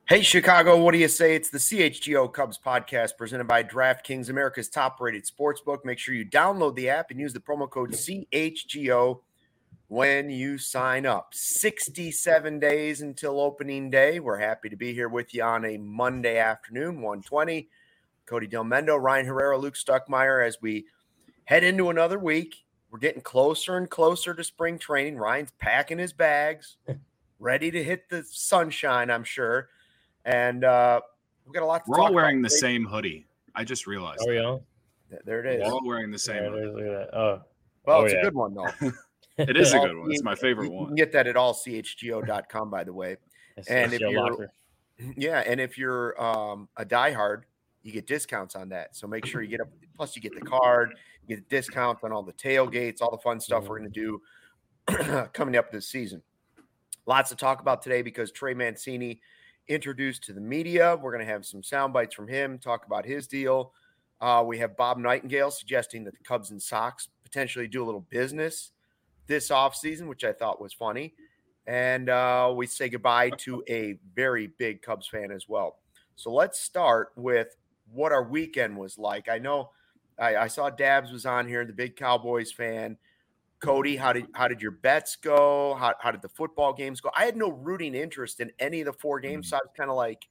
Hey, Chicago, what do you say? It's the CHGO Cubs podcast presented by DraftKings, America's top-rated sportsbook. Make sure you download the app and use the promo code CHGO when you sign up. 67 days until opening day. We're happy to be here with you on a Monday afternoon, 1:20. Cody Del Mendo, Ryan Herrera, Luke Stuckmeyer, as we head into another week. We're getting closer and closer to spring training. Ryan's packing his bags, ready to hit the sunshine, I'm sure. And we've got a lot to talk about. We're all wearing the same hoodie. I just realized. Are we all? There it is. We're all wearing the same hoodie. Look at that. It's a good one, though. It is a good one. It's my favorite one. You can get that at allchgo.com, by the way. And if you're a diehard, you get discounts on that. So make sure you get up. Plus, you get the card, you get the discounts on all the tailgates, all the fun stuff we're going to do coming up this season. Lots to talk about today because Trey Mancini introduced to the media. We're going to have some sound bites from him, talk about his deal. We have Bob Nightingale suggesting that the Cubs and Sox potentially do a little business this offseason, which I thought was funny. And we say goodbye to a very big Cubs fan as well. So let's start with what our weekend was like. I know I saw Dabs was on here, the big Cowboys fan. Cody, how did your bets go? How did the football games go? I had no rooting interest in any of the four games, so I was kind of like.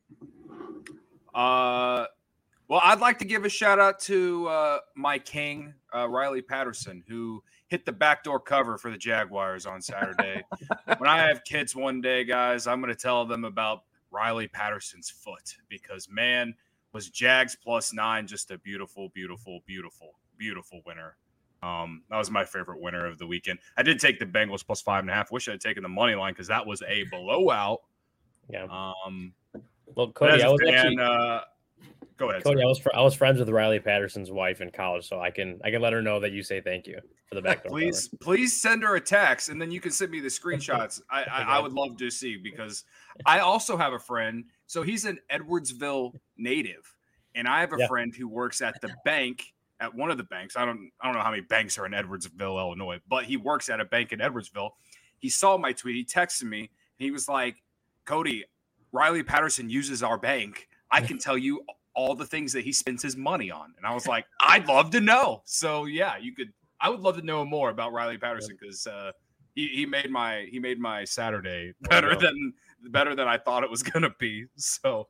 Well, I'd like to give a shout out to my king, Riley Patterson, who hit the backdoor cover for the Jaguars on Saturday. When I have kids one day, guys, I'm going to tell them about Riley Patterson's foot because, man, was Jags +9 just a beautiful, beautiful, beautiful, beautiful winner. That was my favorite winner of the weekend. I did take the Bengals +5.5. Wish I had taken the money line because that was a blowout. Yeah. Well, Cody, I was actually. Go ahead. Cody, I was friends with Riley Patterson's wife in college, so I can let her know that you say thank you for the backdoor. Please send her a text, and then you can send me the screenshots. I would love to see because I also have a friend. So he's an Edwardsville native, and I have a friend who works at the bank. At one of the banks. I don't know how many banks are in Edwardsville, Illinois, but he works at a bank in Edwardsville. He saw my tweet. He texted me. And he was like, Cody, Riley Patterson uses our bank. I can tell you all the things that he spends his money on. And I was like, I'd love to know. So yeah, I would love to know more about Riley Patterson because he made my Saturday better than I thought it was going to be. So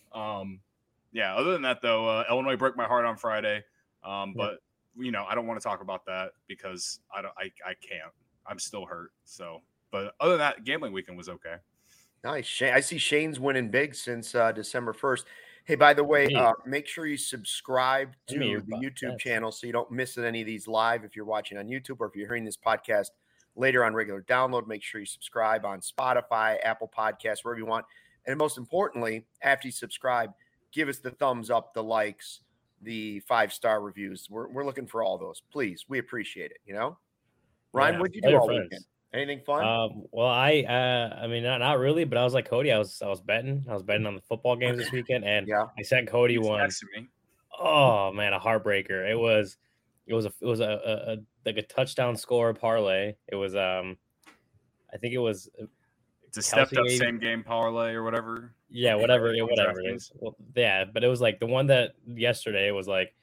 yeah, other than that though, Illinois broke my heart on Friday. But I don't want to talk about that because I can't. I'm still hurt. So, but other than that, gambling weekend was okay. Nice. I see Shane's winning big since December 1st. Hey, by the way, make sure you subscribe to the YouTube channel so you don't miss any of these live if you're watching on YouTube or if you're hearing this podcast later on regular download. Make sure you subscribe on Spotify, Apple Podcasts, wherever you want. And most importantly, after you subscribe, give us the thumbs up, the likes, the 5-star reviews. We're looking for all those. Please. We appreciate it, Ryan, what'd you do all weekend? Anything fun? Well, I mean, not really, but I was like Cody. I was betting. I was betting on the football games this weekend, and I sent Cody one. Oh man, a heartbreaker. It was a like a touchdown score parlay. It was I think it was. It's a stepped up same game parlay or whatever. Yeah, whatever it is. Well, yeah, but it was like the one that yesterday was like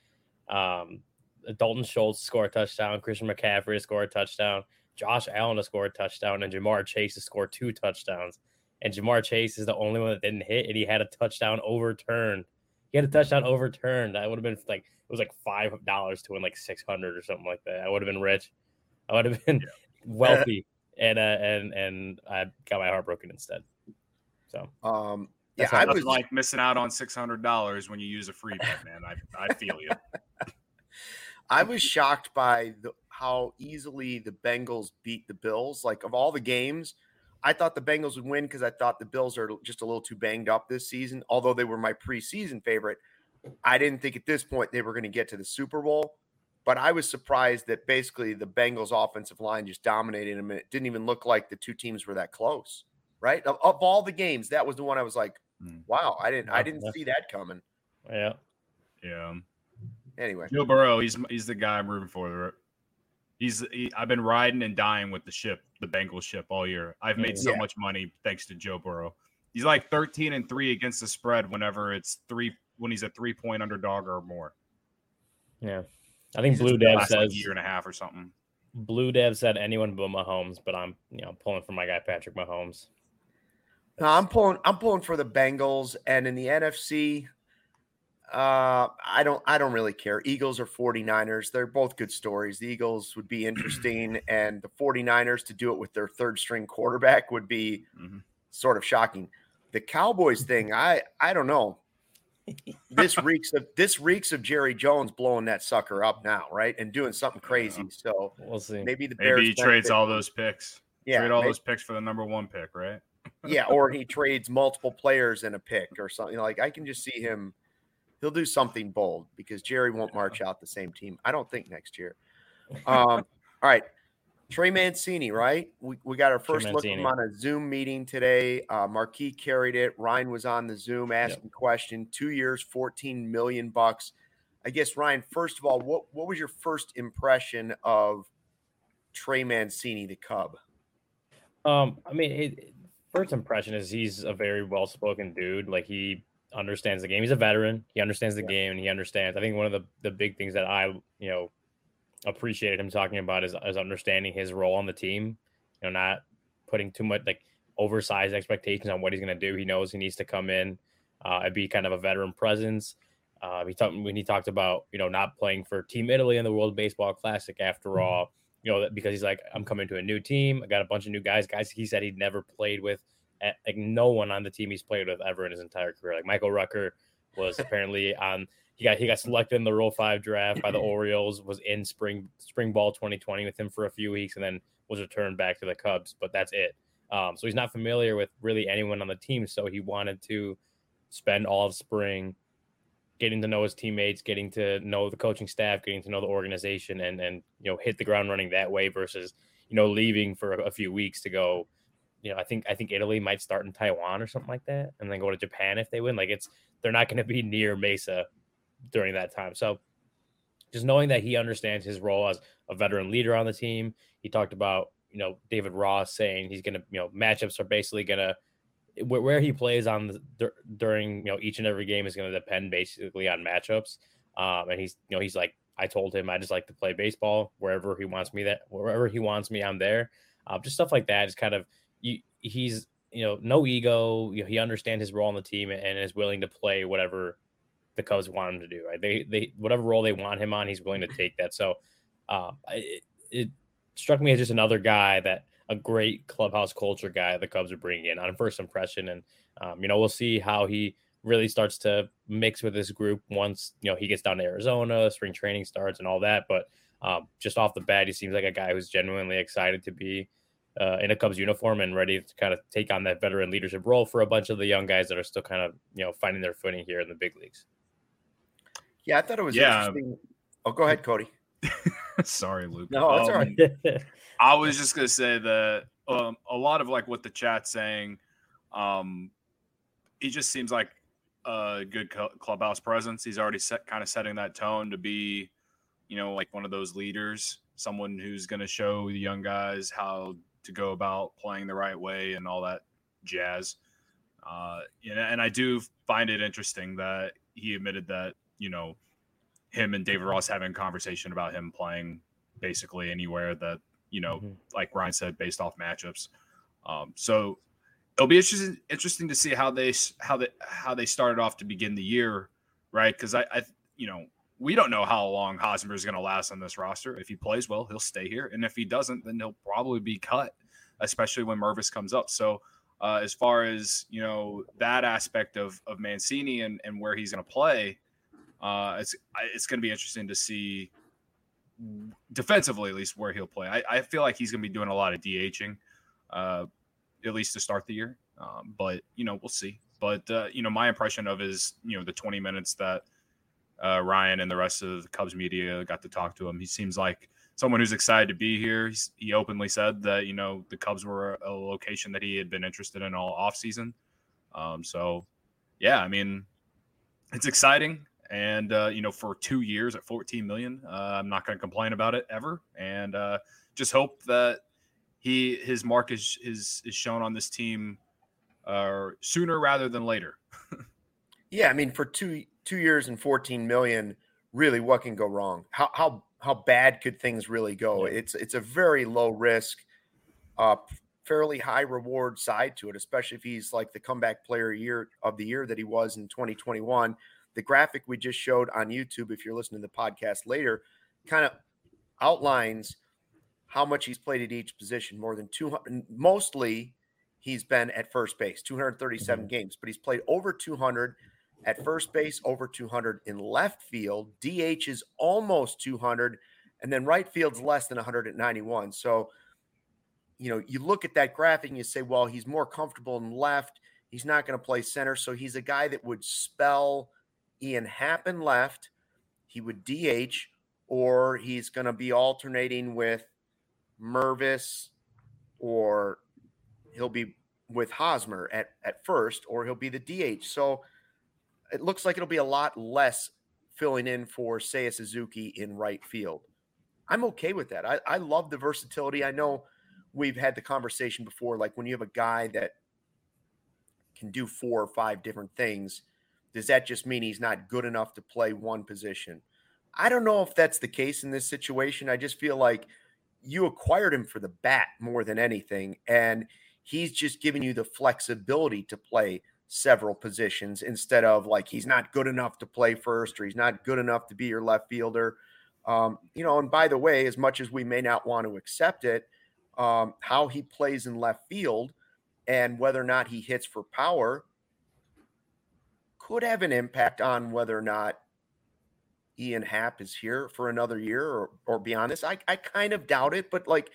Dalton Schultz score a touchdown, Christian McCaffrey to score a touchdown, Josh Allen to score a touchdown, and Jamar Chase to score 2 touchdowns. And Jamar Chase is the only one that didn't hit, and he had a touchdown overturned. That would have been like it was like $5 to win like 600 or something like that. I would have been rich. I would have been wealthy. And I got my heart broken instead. So I was like missing out on $600 when you use a free bet, man. I feel you. I was shocked by how easily the Bengals beat the Bills. Like of all the games, I thought the Bengals would win because I thought the Bills are just a little too banged up this season. Although they were my preseason favorite, I didn't think at this point they were going to get to the Super Bowl. But I was surprised that basically the Bengals offensive line just dominated them. And it didn't even look like the two teams were that close, right? Of all the games, that was the one I was like, wow, I didn't see that coming. Yeah. Yeah. Anyway. Joe Burrow, he's the guy I'm rooting for. I've been riding and dying with the Bengals ship all year. I've made so much money thanks to Joe Burrow. He's like 13-3 against the spread when he's a 3-point underdog or more. Yeah. I think Blue Dev says year and a half or something. Blue Dev said anyone but Mahomes, but I'm pulling for my guy Patrick Mahomes. No, I'm pulling for the Bengals, and in the NFC, I don't really care. Eagles or 49ers, they're both good stories. The Eagles would be interesting, and the 49ers to do it with their third string quarterback would be sort of shocking. The Cowboys thing, I don't know. This reeks of Jerry Jones blowing that sucker up now, right? And doing something crazy. So we'll see. Maybe the Bears he trades all those picks. Yeah, trade all those picks for the number 1 pick, right? Yeah, or he trades multiple players in a pick or something. Like I can just see him. He'll do something bold because Jerry won't march out the same team. I don't think next year. All right. Trey Mancini, right? We got our first look at him on a Zoom meeting today. Marquis carried it. Ryan was on the Zoom asking question. 2 years, $14 million. I guess, Ryan, first of all, what was your first impression of Trey Mancini, the Cub? First impression is he's a very well-spoken dude. Like, he understands the game. He's a veteran. He understands the game, and he understands. I think one of the big things that I, appreciated him talking about is understanding his role on the team. Not putting too much like oversized expectations on what he's going to do. He knows he needs to come in and be kind of a veteran presence. When he talked about not playing for Team Italy in the World Baseball Classic after all. Because he's like, I'm coming to a new team. I got a bunch of new guys he said he'd never played with. Like no one on the team he's played with ever in his entire career. Like Michael Rucker was apparently on. He got selected in the Rule 5 draft by the Orioles. Was in spring ball 2020 with him for a few weeks, and then was returned back to the Cubs. But that's it. So he's not familiar with really anyone on the team. So he wanted to spend all of spring getting to know his teammates, getting to know the coaching staff, getting to know the organization, and hit the ground running that way versus leaving for a few weeks to go. I think Italy might start in Taiwan or something like that, and then go to Japan if they win. Like they're not going to be near Mesa during that time. So just knowing that he understands his role as a veteran leader on the team. He talked about David Ross saying he's going to matchups are basically going to where he plays on during each and every game is going to depend basically on matchups. And he's like, I told him I just like to play baseball wherever he wants me. I'm there. Just stuff like that is kind of he's no ego. He understands his role on the team and is willing to play whatever the Cubs want him to do. Right? They whatever role they want him on, he's willing to take that. So it struck me as just another guy that. A great clubhouse culture guy the Cubs are bringing in on first impression. And, we'll see how he really starts to mix with this group once, he gets down to Arizona, spring training starts and all that. But just off the bat, he seems like a guy who's genuinely excited to be in a Cubs uniform and ready to kind of take on that veteran leadership role for a bunch of the young guys that are still kind of, finding their footing here in the big leagues. Yeah, I thought it was interesting. Oh, go ahead, Cody. Sorry, Luke. No, that's all right. I was just going to say that a lot of like what the chat's saying, he just seems like a good clubhouse presence. He's already setting that tone to be, like one of those leaders, someone who's going to show the young guys how to go about playing the right way and all that jazz. And I do find it interesting that he admitted that, him and David Ross having a conversation about him playing basically anywhere that, like Ryan said, based off matchups. So it'll be interesting to see how they started off to begin the year, right? Because I we don't know how long Hosmer is going to last on this roster. If he plays well, he'll stay here, and if he doesn't, then he'll probably be cut, especially when Mervis comes up. So as far as that aspect of Mancini and where he's going to play, it's going to be interesting to see. Defensively, at least where he'll play. I feel like he's going to be doing a lot of DHing, at least to start the year. But, we'll see. But, my impression of is, the 20 minutes that Ryan and the rest of the Cubs media got to talk to him, he seems like someone who's excited to be here. He openly said that, the Cubs were a location that he had been interested in all offseason. So, yeah, I mean, it's exciting. And, for 2 years at $14 million, I'm not going to complain about it ever. And just hope that his mark is shown on this team sooner rather than later. Yeah, I mean, for 2 years and $14 million, really, what can go wrong? How bad could things really go? Yeah. It's a very low risk, fairly high reward side to it, especially if he's like the comeback player of the year that he was in 2021. The graphic we just showed on YouTube, if you're listening to the podcast later, kind of outlines how much he's played at each position. More than 200, mostly he's been at first base, 237 games, but he's played over 200 at first base, over 200 in left field. DH is almost 200, and then right field's less than 191. So, you look at that graphic and you say, well, he's more comfortable in left. He's not going to play center. So he's a guy that would spell Ian Happ in left. He would DH, or he's going to be alternating with Mervis, or he'll be with Hosmer at first, or he'll be the DH. So it looks like it'll be a lot less filling in for Seiya Suzuki in right field. I'm okay with that. I love the versatility. I know we've had the conversation before, like when you have a guy that can do 4 or 5 different things, does that just mean he's not good enough to play one position? I don't know if that's the case in this situation. I just feel like you acquired him for the bat more than anything, and he's just giving you the flexibility to play several positions instead of like he's not good enough to play first, or he's not good enough to be your left fielder. And by the way, as much as we may not want to accept it, how he plays in left field and whether or not he hits for power could have an impact on whether or not Ian Happ is here for another year or beyond this. I kind of doubt it, but like,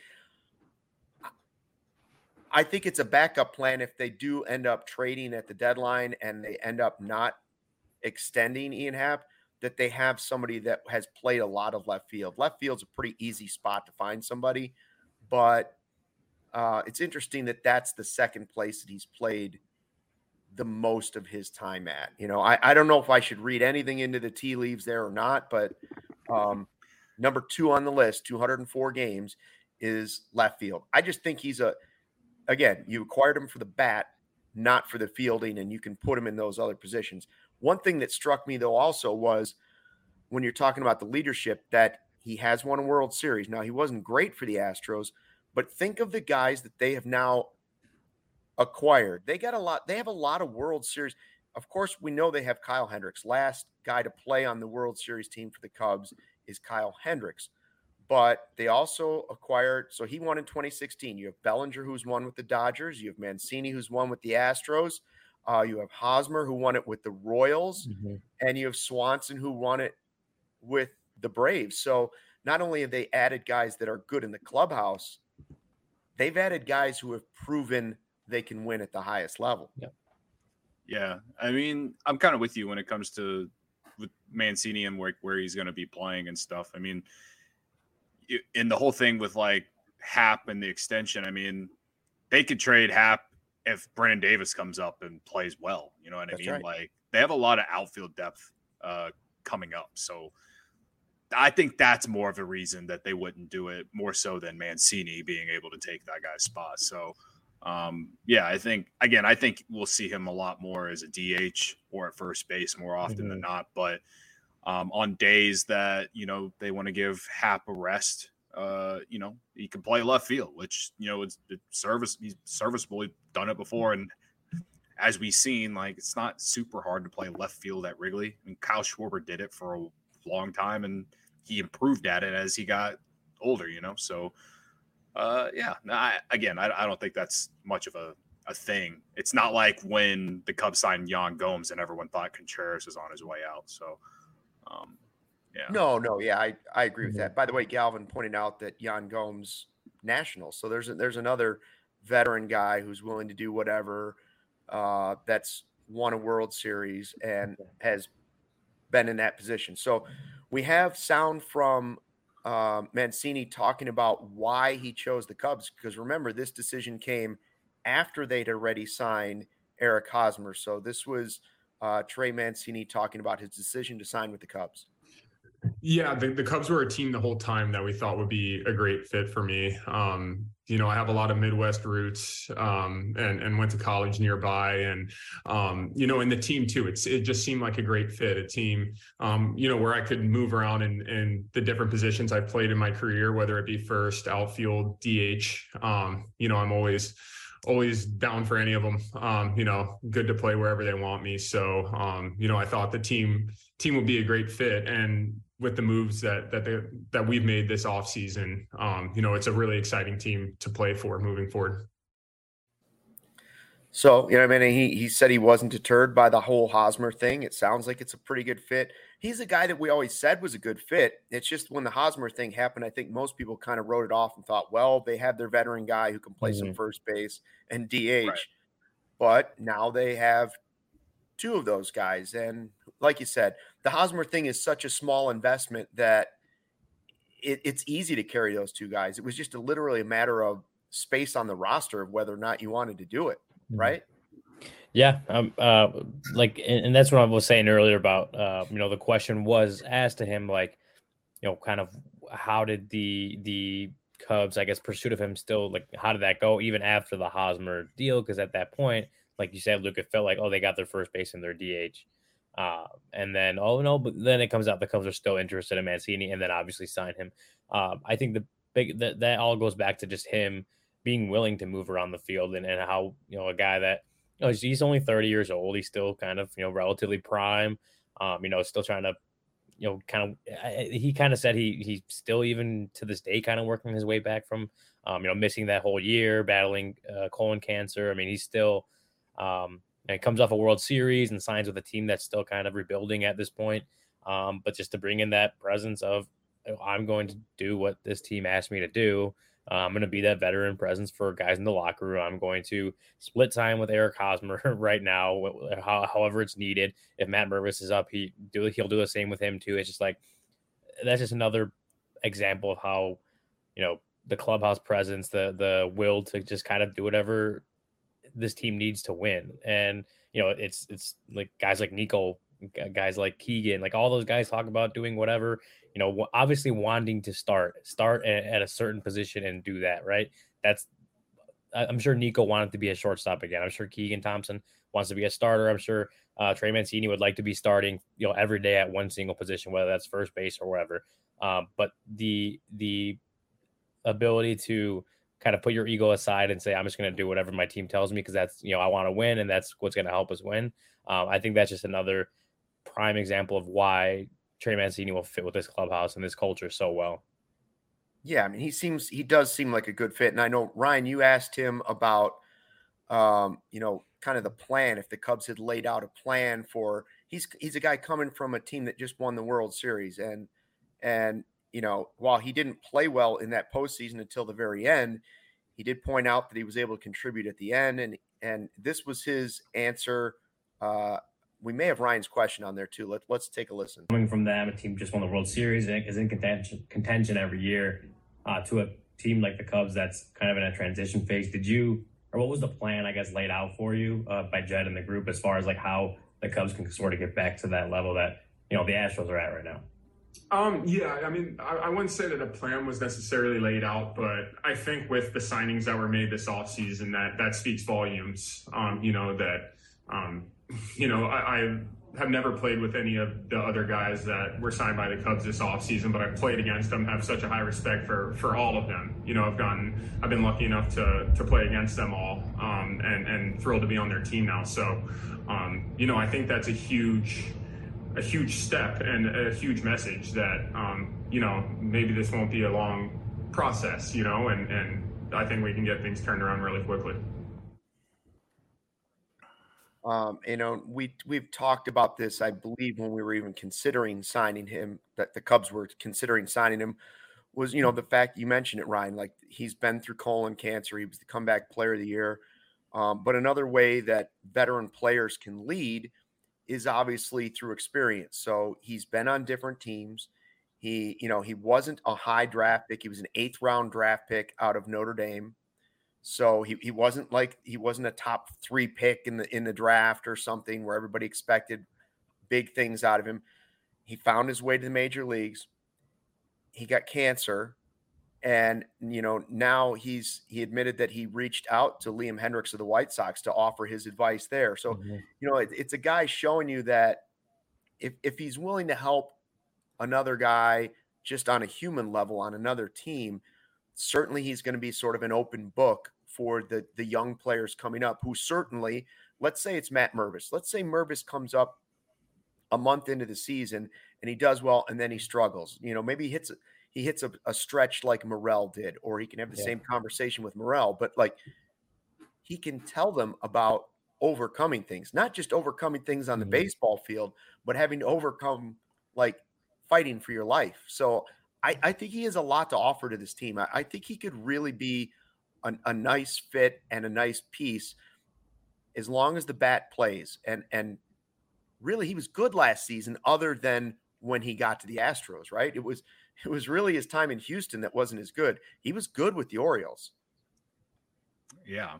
I think it's a backup plan if they do end up trading at the deadline and they end up not extending Ian Happ, that they have somebody that has played a lot of left field. Left field's a pretty easy spot to find somebody, but it's interesting that that's the second place that he's played the most of his time at. I don't know if I should read anything into the tea leaves there or not, but number 2 on the list, 204 games, is left field. I just think he's again, you acquired him for the bat, not for the fielding, and you can put him in those other positions. One thing that struck me, though, also was when you're talking about the leadership, that he has won a World Series. Now, he wasn't great for the Astros, but think of the guys that they have now acquired. They have a lot of World Series. Of course, we know they have Kyle Hendricks. Last guy to play on the World Series team for the Cubs is Kyle Hendricks. But they also acquired, so he won in 2016. You have Bellinger, who's won with the Dodgers. You have Mancini, who's won with the Astros. You have Hosmer, who won it with the Royals. Mm-hmm. And you have Swanson, who won it with the Braves. So not only have they added guys that are good in the clubhouse, they've added guys who have proven they can win at the highest level. Yeah. I mean, I'm kind of with you when it comes to with Mancini and where he's going to be playing and stuff. I mean, in the whole thing with like Happ and the extension, I mean, they could trade Happ if Brennan Davis comes up and plays well. You know what I mean? Right. Like they have a lot of outfield depth coming up. So I think that's more of a reason that they wouldn't do it, more so than Mancini being able to take that guy's spot. So I think we'll see him a lot more as a DH or at first base more often than not. But on days that, they want to give Happ a rest, he can play left field, which, he's serviceable. He's done it before. And as we've seen, like, it's not super hard to play left field at Wrigley. I mean, Kyle Schwarber did it for a long time and he improved at it as he got older, So, I don't think that's much of a thing. It's not like when the Cubs signed Yan Gomes and everyone thought Contreras was on his way out. So, No. Yeah, I agree with that. By the way, Galvin pointed out that Yan Gomes national. So there's another veteran guy who's willing to do whatever, that's won a World Series and has been in that position. So we have sound from Mancini talking about why he chose the Cubs, because remember, this decision came after they'd already signed Eric Hosmer. So this was Trey Mancini talking about his decision to sign with the Cubs. Yeah, the Cubs were a team the whole time that we thought would be a great fit for me. I have a lot of Midwest roots, and went to college nearby, and and the team too. It just seemed like a great fit, a team, where I could move around in the different positions I've played in my career, whether it be first, outfield, DH. I'm always down for any of them. Good to play wherever they want me. So, I thought the team would be a great fit, and with the moves that we've made this offseason, it's a really exciting team to play for moving forward. So, he said he wasn't deterred by the whole Hosmer thing. It sounds like it's a pretty good fit. He's a guy that we always said was a good fit. It's just when the Hosmer thing happened, I think most people kind of wrote it off and thought, well, they have their veteran guy who can play some first base and DH. Right. But now they have two of those guys. And like you said, the Hosmer thing is such a small investment that it's easy to carry those two guys. It was just literally a matter of space on the roster of whether or not you wanted to do it. Right. Yeah. And that's what I was saying earlier about, the question was asked to him, like, kind of how did the Cubs, I guess, pursuit of him still, like, how did that go even after the Hosmer deal? Because at that point, like you said, Luke, it felt like, they got their first base and their DH. And then, but then it comes out the Cubs are still interested in Mancini and then obviously sign him. I think that all goes back to just him being willing to move around the field and how, a guy that, he's only 30 years old. He's still kind of, relatively prime, still trying to, he kind of said he's still even to this day kind of working his way back from, missing that whole year, battling colon cancer. I mean, he's still, and comes off a World Series and signs with a team that's still kind of rebuilding at this point. But just to bring in that presence of, I'm going to do what this team asked me to do. I'm going to be that veteran presence for guys in the locker room. I'm going to split time with Eric Hosmer right now, however it's needed. If Matt Mervis is up, he'll do the same with him too. It's just like, that's just another example of how, the clubhouse presence, the will to just kind of do whatever this team needs to win. And, it's like guys like Nico, guys like Keegan, like all those guys talk about doing whatever, obviously wanting to start at a certain position and do that. Right. I'm sure Nico wanted to be a shortstop again. I'm sure Keegan Thompson wants to be a starter. I'm sure Trey Mancini would like to be starting, every day at one single position, whether that's first base or whatever. But the ability to kind of put your ego aside and say, I'm just going to do whatever my team tells me, because that's, I want to win and that's what's going to help us win. I think that's just another prime example of why Trey Mancini will fit with this clubhouse and this culture so well. Yeah, I mean, he does seem like a good fit. And I know, Ryan, you asked him about, kind of the plan, if the Cubs had laid out a plan for, he's a guy coming from a team that just won the World Series. And while he didn't play well in that postseason until the very end, he did point out that he was able to contribute at the end. And this was his answer. We may have Ryan's question on there too. Let's take a listen. Coming from them, a team just won the World Series and is in contention every year, to a team like the Cubs that's kind of in a transition phase. What was the plan, I guess, laid out for you by Jed and the group as far as like how the Cubs can sort of get back to that level that, the Astros are at right now? Yeah, I mean, I wouldn't say that a plan was necessarily laid out, but I think with the signings that were made this offseason, that speaks volumes. I have never played with any of the other guys that were signed by the Cubs this offseason, but I've played against them, have such a high respect for all of them. I've been lucky enough to play against them all, and thrilled to be on their team now. So, I think that's a huge step and a huge message that, maybe this won't be a long process, and I think we can get things turned around really quickly. We've talked about this, I believe, when we were even considering signing him, that the Cubs were considering signing him, was, the fact you mentioned it, Ryan, like he's been through colon cancer. He was the comeback player of the year. But another way that veteran players can lead is obviously through experience. So he's been on different teams. He wasn't a high draft pick. He was an 8th round draft pick out of Notre Dame. So he wasn't a top 3 pick in the draft or something where everybody expected big things out of him. He found his way to the major leagues. He got cancer. And, now he admitted that he reached out to Liam Hendriks of the White Sox to offer his advice there. So, it's a guy showing you that if he's willing to help another guy just on a human level on another team, certainly he's going to be sort of an open book for the young players coming up who certainly, let's say it's Matt Mervis. Let's say Mervis comes up a month into the season and he does well and then he struggles. Maybe he hits a stretch like Morel did, or he can have the same conversation with Morel, but like he can tell them about overcoming things, not just overcoming things on the baseball field, but having to overcome like fighting for your life. So I think he has a lot to offer to this team. I think he could really be a nice fit and a nice piece as long as the bat plays. And really, he was good last season other than when he got to the Astros, right? It was really his time in Houston that wasn't as good. He was good with the Orioles. Yeah.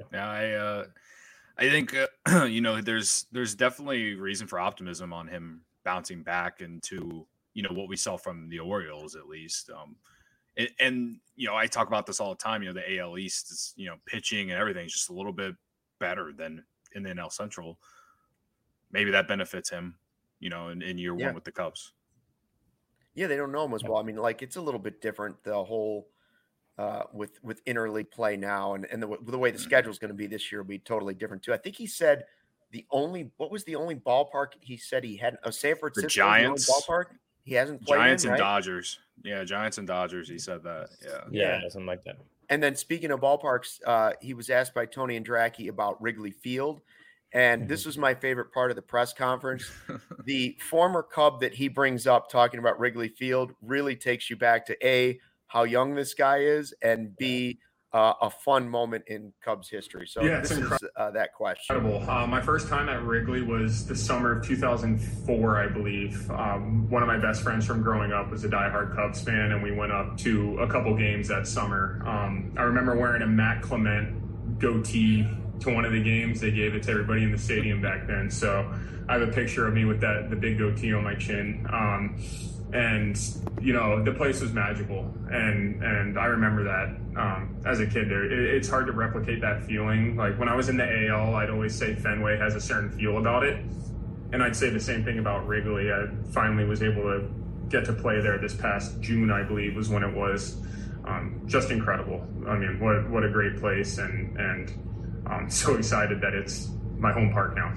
I think, there's definitely reason for optimism on him bouncing back into, what we saw from the Orioles, at least. And I talk about this all the time, the AL East is, pitching and everything is just a little bit better than in the NL Central. Maybe that benefits him, in year one with the Cubs. Yeah, they don't know him as well. I mean, like it's a little bit different, the whole with interleague play now, and the way the schedule is going to be this year will be totally different too. I think he said what was the only ballpark he said he had? San Francisco, the Giants ballpark he hasn't played Giants in, and right? Dodgers. Yeah, Giants and Dodgers. He said that. Yeah, something like that. And then speaking of ballparks, he was asked by Tony Andracki about Wrigley Field. And this was my favorite part of the press conference. The former Cub that he brings up talking about Wrigley Field really takes you back to A, how young this guy is, and B, a fun moment in Cubs history. So this is that question. Incredible. My first time at Wrigley was the summer of 2004, I believe. One of my best friends from growing up was a diehard Cubs fan, and we went up to a couple games that summer. I remember wearing a Matt Clement goatee to one of the games. They gave it to everybody in the stadium back then. So I have a picture of me with the big goatee on my chin. And, the place was magical. And I remember that as a kid there. It's hard to replicate that feeling. Like when I was in the AL, I'd always say Fenway has a certain feel about it. And I'd say the same thing about Wrigley. I finally was able to get to play there this past June, I believe, was when it was. Just incredible. I mean, what a great place. And I'm so excited that it's my home park now.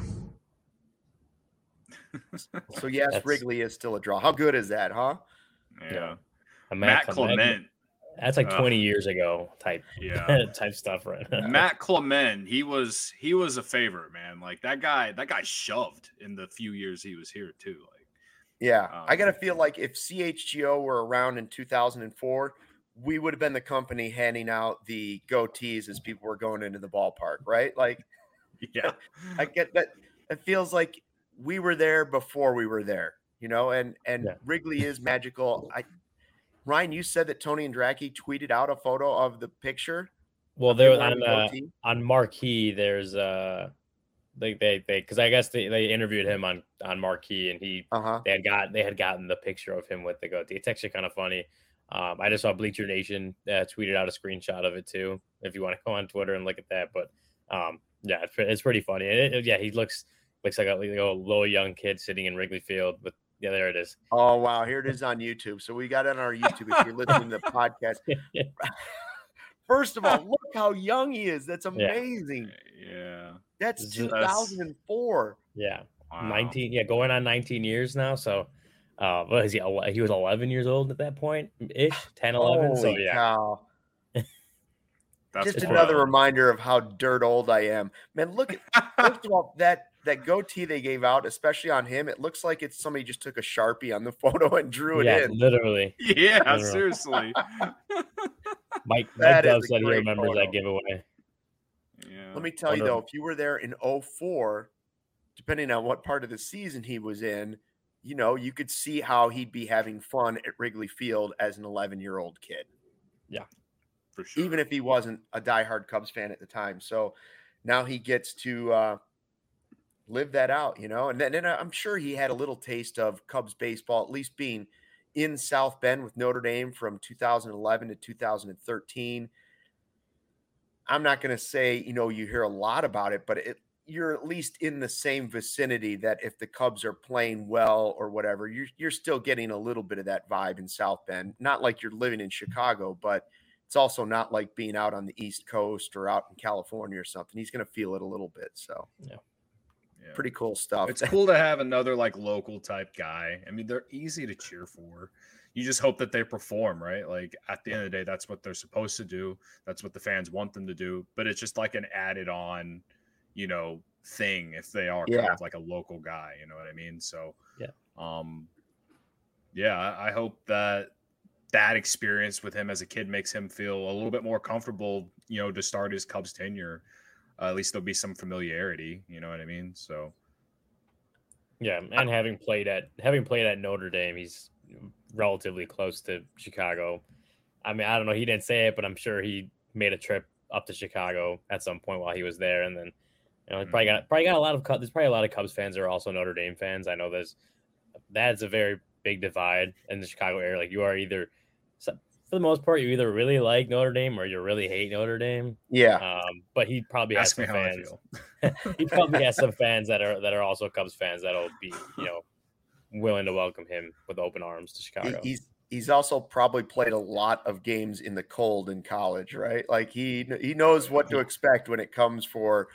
So yes, Wrigley is still a draw. How good is that, huh? Yeah. Matt Clement. That's like 20 years ago type stuff, right? Matt Clement, he was a favorite, man. Like that guy shoved in the few years he was here too. Like, I gotta feel like if CHGO were around in 2004, we would have been the company handing out the goatees as people were going into the ballpark, right? Like, I get that. It feels like we were there before we were there, and Wrigley is magical. Ryan, you said that Tony Andracki tweeted out a photo of the picture. Well, there on Marquee, there's because I guess they interviewed him on Marquee, and they had gotten the picture of him with the goatee. It's actually kind of funny. I just saw Bleacher Nation tweeted out a screenshot of it too. If you want to go on Twitter and look at that, but it's pretty funny. He looks like a little young kid sitting in Wrigley Field. But there it is. Oh wow, here it is on YouTube. So we got it on our YouTube. If you're listening to the podcast, first of all, look how young he is. That's amazing. Yeah, that's 2004. Yeah, wow. 19. Yeah, going on 19 years now. So, what is he? He was 11 years old at that point, ish, 10, 11. Holy so yeah. Cow. That's just another reminder of how dirt old I am, man. Look at first of all that goatee they gave out, especially on him. It looks like it's somebody just took a Sharpie on the photo and drew it in. Literally. Yeah, literally. Seriously. Mike Dove said he remembers that giveaway. Yeah. Let me tell you though, if you were there in 2004, depending on what part of the season he was in, you could see how he'd be having fun at Wrigley Field as an 11-year-old kid. Yeah, for sure. Even if he wasn't a diehard Cubs fan at the time. So now he gets to live that out, and then I'm sure he had a little taste of Cubs baseball, at least being in South Bend with Notre Dame from 2011 to 2013. I'm not going to say, you hear a lot about it, but you're at least in the same vicinity that if the Cubs are playing well or whatever, you're still getting a little bit of that vibe in South Bend. Not like you're living in Chicago, but it's also not like being out on the East Coast or out in California or something. He's going to feel it a little bit. So, pretty cool stuff. It's cool to have another like local type guy. I mean, they're easy to cheer for. You just hope that they perform, right? Like at the end of the day, that's what they're supposed to do. That's what the fans want them to do. But it's just like an added on, thing if they are kind of like a local guy. You know what I mean? So, I hope that experience with him as a kid makes him feel a little bit more comfortable, to start his Cubs tenure. At least there'll be some familiarity, you know what I mean? So, yeah, and having played at Notre Dame, he's relatively close to Chicago. I mean, I don't know, he didn't say it, but I'm sure he made a trip up to Chicago at some point while he was there, and then he probably got a lot of there's probably a lot of Cubs fans that are also Notre Dame fans. I know that's a very big divide in the Chicago area. Like, you are either, for the most part, you either really like Notre Dame or you really hate Notre Dame. Yeah. But he probably has some fans. He probably has some fans that are also Cubs fans that'll be, willing to welcome him with open arms to Chicago. He's also probably played a lot of games in the cold in college, right? Like he knows what to expect when it comes for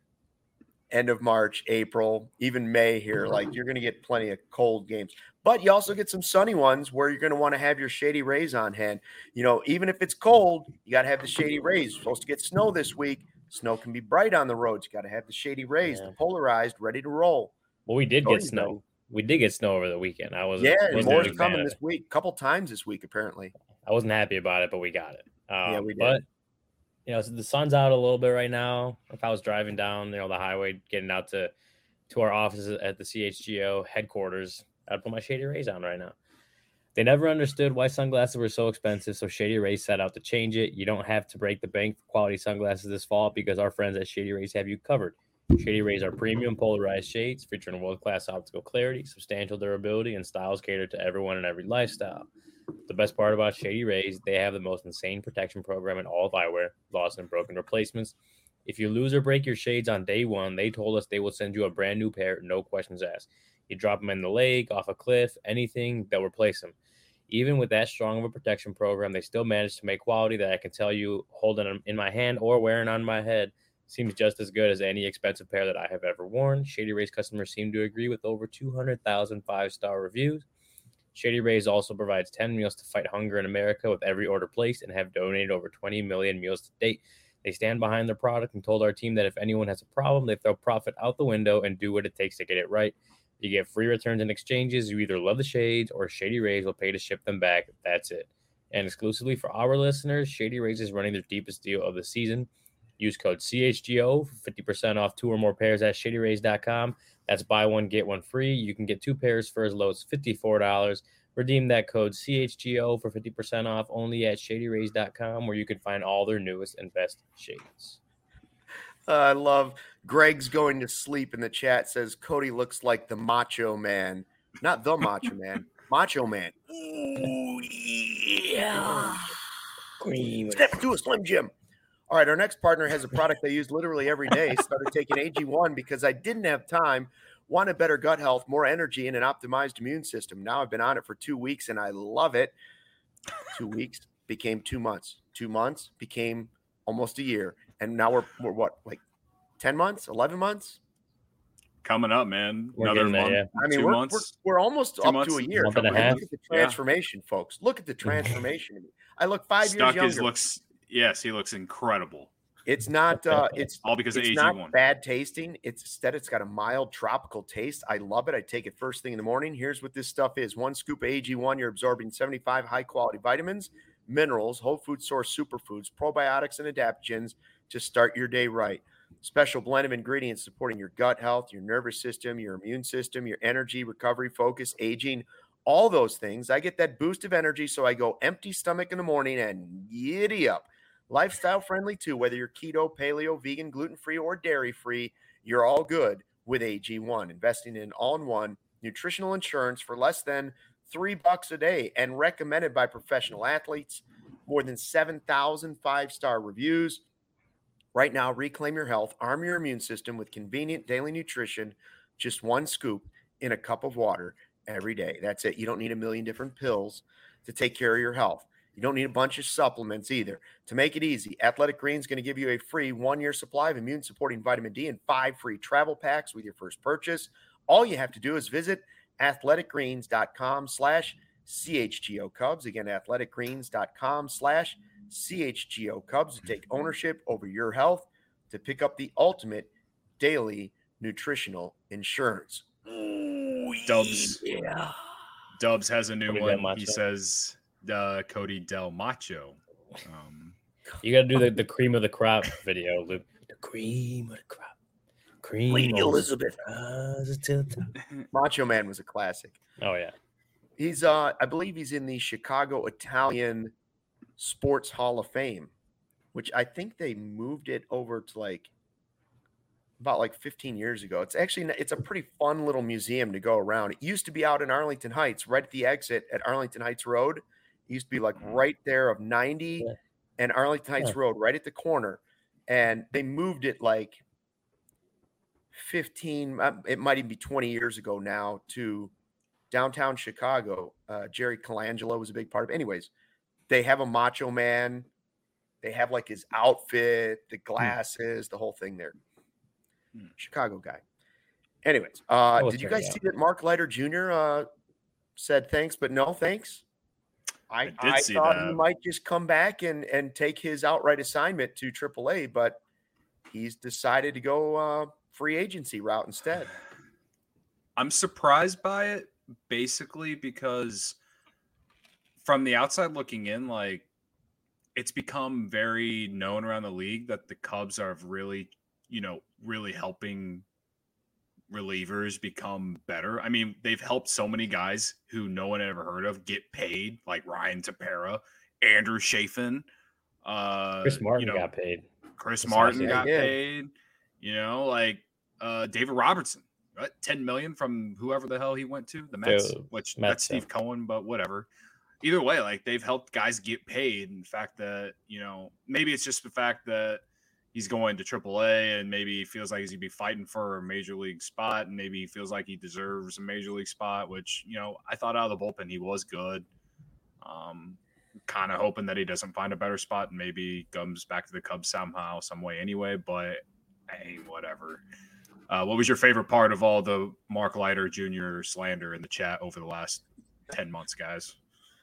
end of March, April, even May here. Like, you're going to get plenty of cold games, but you also get some sunny ones where you're going to want to have your Shady Rays on hand. Even if it's cold, you got to have the Shady Rays. You're supposed to get snow this week. Snow can be bright on the roads. You got to have the Shady Rays, the polarized, ready to roll. Well, we did get snow. We did get snow over the weekend. More's coming this week, a couple times this week, apparently. I wasn't happy about it, but we got it. We did. But, so the sun's out a little bit right now. If I was driving down, the highway, getting out to our offices at the CHGO headquarters, I'd put my Shady Rays on right now. They never understood why sunglasses were so expensive, so Shady Rays set out to change it. You don't have to break the bank for quality sunglasses this fall because our friends at Shady Rays have you covered. Shady Rays are premium polarized shades featuring world-class optical clarity, substantial durability, and styles catered to everyone and every lifestyle. The best part about Shady Rays, they have the most insane protection program in all of eyewear, lost and broken replacements. If you lose or break your shades on day one, they told us they will send you a brand new pair, no questions asked. You drop them in the lake, off a cliff, anything, they'll replace them. Even with that strong of a protection program, they still managed to make quality that I can tell you, holding them in my hand or wearing on my head, seems just as good as any expensive pair that I have ever worn. Shady Rays customers seem to agree with over 200,000 5-star reviews. Shady Rays also provides 10 meals to fight hunger in America with every order placed and have donated over 20 million meals to date. They stand behind their product and told our team that if anyone has a problem, they throw profit out the window and do what it takes to get it right. You get free returns and exchanges. You either love the shades or Shady Rays will pay to ship them back. That's it. And exclusively for our listeners, Shady Rays is running their deepest deal of the season. Use code CHGO for 50% off 2 or more pairs at ShadyRays.com. That's buy one, get one free. You can get 2 pairs for as low as $54. Redeem that code CHGO for 50% off only at ShadyRays.com, where you can find all their newest and best shades. I love Greg's going to sleep in the chat, says Cody looks like the Macho Man. Not the Macho Man, Macho Man. Ooh, yeah. Step into a Slim Jim. All right, our next partner has a product I use literally every day. Started taking AG1 because I didn't have time, wanted better gut health, more energy, and an optimized immune system. Now I've been on it for 2 weeks, and I love it. 2 weeks became 2 months. 2 months became almost a year. And now we're what, like 10 months, 11 months? Coming up, man. Another month. Yeah. I mean, we're almost up to a year. Month and a half. Look at the transformation, folks. Look at the transformation. I look 5 years younger. Yes, he looks incredible. It's not it's all because of AG1. It's not bad tasting. It's got a mild tropical taste. I love it. I take it first thing in the morning. Here's what this stuff is. 1 scoop of AG1, you're absorbing 75 high-quality vitamins, minerals, whole food source superfoods, probiotics, and adaptogens to start your day right. Special blend of ingredients supporting your gut health, your nervous system, your immune system, your energy, recovery, focus, aging, all those things. I get that boost of energy, so I go empty stomach in the morning and giddy up. Lifestyle friendly too, whether you're keto, paleo, vegan, gluten-free, or dairy-free, you're all good with AG1, investing in all-in-one nutritional insurance for less than $3 a day and recommended by professional athletes. More than 7,000 five-star reviews. Right now, reclaim your health, arm your immune system with convenient daily nutrition, just one scoop in a cup of water every day. That's it. You don't need a million different pills to take care of your health. You don't need a bunch of supplements either. To make it easy, Athletic Greens is going to give you a free 1-year supply of immune-supporting vitamin D and 5 free travel packs with your first purchase. All you have to do is visit athleticgreens.com/CHGO Cubs. Again, athleticgreens.com/CHGO Cubs to take ownership over your health, to pick up the ultimate daily nutritional insurance. Ooh, yeah. Dubs has a new one. He says Cody Del Macho. You got to do the cream of the crop video, Luke. The cream of the crop. Cream Lady Elizabeth. Macho Man was a classic. Oh yeah. He's I believe he's in the Chicago Italian Sports Hall of Fame, which I think they moved it over to about 15 years ago. It's a pretty fun little museum to go around. It used to be out in Arlington Heights, right at the exit at Arlington Heights Road. It used to be right there of 90 and Arlington Heights Road, right at the corner. And they moved it 15, it might even be 20 years ago now, to downtown Chicago. Jerry Colangelo was a big part of it. Anyways, they have a Macho Man. They have his outfit, the glasses, the whole thing there. Chicago guy. Anyways, did you guys see that Mark Leiter Jr. Said thanks, but no thanks? I thought he might just come back and take his outright assignment to AAA, but he's decided to go free agency route instead. I'm surprised by it, basically, because from the outside looking in, it's become very known around the league that the Cubs are really helping relievers become better. I mean, they've helped so many guys who no one ever heard of get paid, like Ryan Tepera, Andrew Chafin. Chris Martin got paid. Chris Martin got paid. David Robertson, right? $10 million from whoever the hell he went to, the Mets, that's Steve Cohen, but whatever. Either way, they've helped guys get paid. And the fact that, maybe it's just the fact that he's going to AAA and maybe he feels like he's going to be fighting for a major league spot, and maybe he feels like he deserves a major league spot, which, I thought out of the bullpen he was good. Kind of hoping that he doesn't find a better spot and maybe comes back to the Cubs somehow, some way anyway, but hey, whatever. What was your favorite part of all the Mark Leiter Jr. slander in the chat over the last 10 months, guys?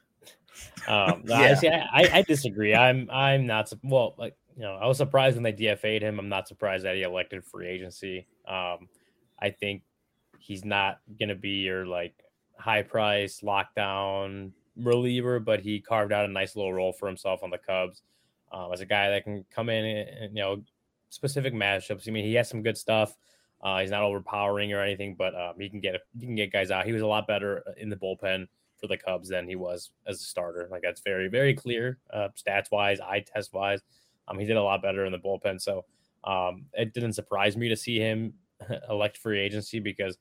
I disagree. I'm not I was surprised when they DFA'd him. I'm not surprised that he elected free agency. I think he's not going to be your high price lockdown reliever, but he carved out a nice little role for himself on the Cubs as a guy that can come in and specific matchups. I mean, he has some good stuff. He's not overpowering or anything, but he can get guys out. He was a lot better in the bullpen for the Cubs than he was as a starter. That's very, very clear, stats wise, eye test wise. He did a lot better in the bullpen. So it didn't surprise me to see him elect free agency because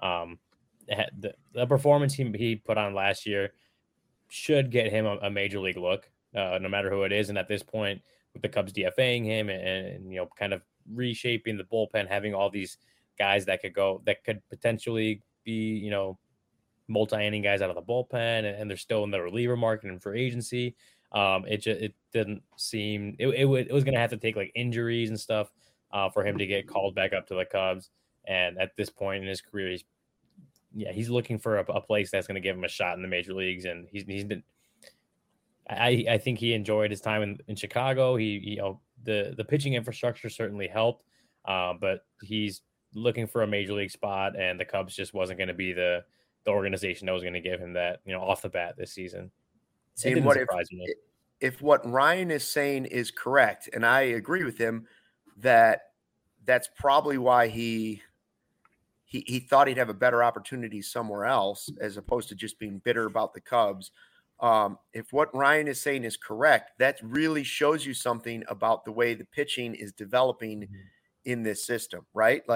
the performance he put on last year should get him a major league look, no matter who it is. And at this point, with the Cubs DFAing him and kind of reshaping the bullpen, having all these guys that could potentially be, multi-inning guys out of the bullpen, and they're still in the reliever market and free agency. It didn't seem it was going to have to take injuries and stuff for him to get called back up to the Cubs. And at this point in his career, he's looking for a place that's going to give him a shot in the major leagues. And he's been, I think he enjoyed his time in Chicago. The pitching infrastructure certainly helped, but he's looking for a major league spot, and the Cubs just wasn't going to be the organization that was going to give him that, off the bat this season. See, if what Ryan is saying is correct, and I agree with him, that's probably why he thought he'd have a better opportunity somewhere else as opposed to just being bitter about the Cubs. If what Ryan is saying is correct, that really shows you something about the way the pitching is developing in this system, right?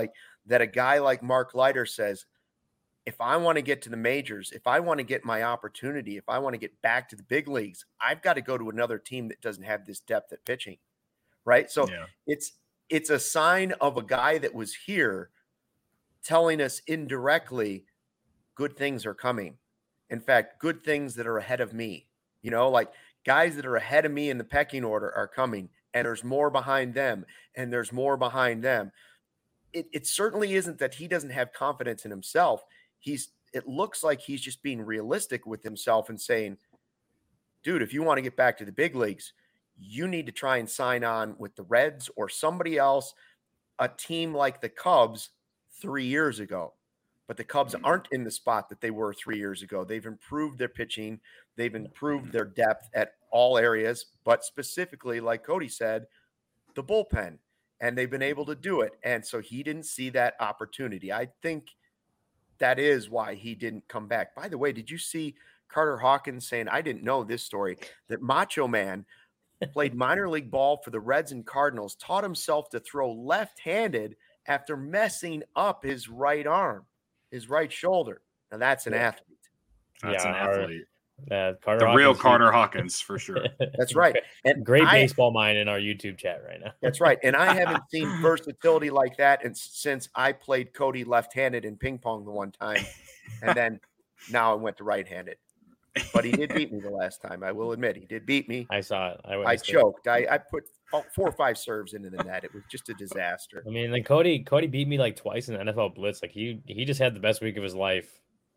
that a guy like Mark Leiter says, if I want to get to the majors, if I want to get my opportunity, if I want to get back to the big leagues, I've got to go to another team that doesn't have this depth at pitching, right? So it's a sign of a guy that was here telling us indirectly good things are coming. In fact, good things that are ahead of me, like guys that are ahead of me in the pecking order are coming, and there's more behind them, and there's more behind them. It certainly isn't that he doesn't have confidence in himself. It looks like he's just being realistic with himself and saying, dude, if you want to get back to the big leagues, you need to try and sign on with the Reds or somebody else, a team like the Cubs 3 years ago. But the Cubs aren't in the spot that they were 3 years ago. They've improved their pitching. They've improved their depth at all areas, but specifically, like Cody said, the bullpen, and they've been able to do it. And so he didn't see that opportunity. I think that is why he didn't come back. By the way, did you see Carter Hawkins saying, I didn't know this story, that Macho Man played minor league ball for the Reds and Cardinals, taught himself to throw left-handed after messing up his right arm, his right shoulder. Now that's an athlete. That's an athlete. Carter the Hawkins, real Carter Hawkins, for sure. That's right. And great baseball mind in our YouTube chat right now. That's right. And I haven't seen versatility like that since I played Cody left-handed in ping pong the one time. And then now I went to right-handed. But he did beat me the last time. I will admit, he did beat me. I saw it. I choked. I put 4 or 5 serves into the net. It was just a disaster. I mean, like Cody beat me like twice in the NFL Blitz. Like he just had the best week of his life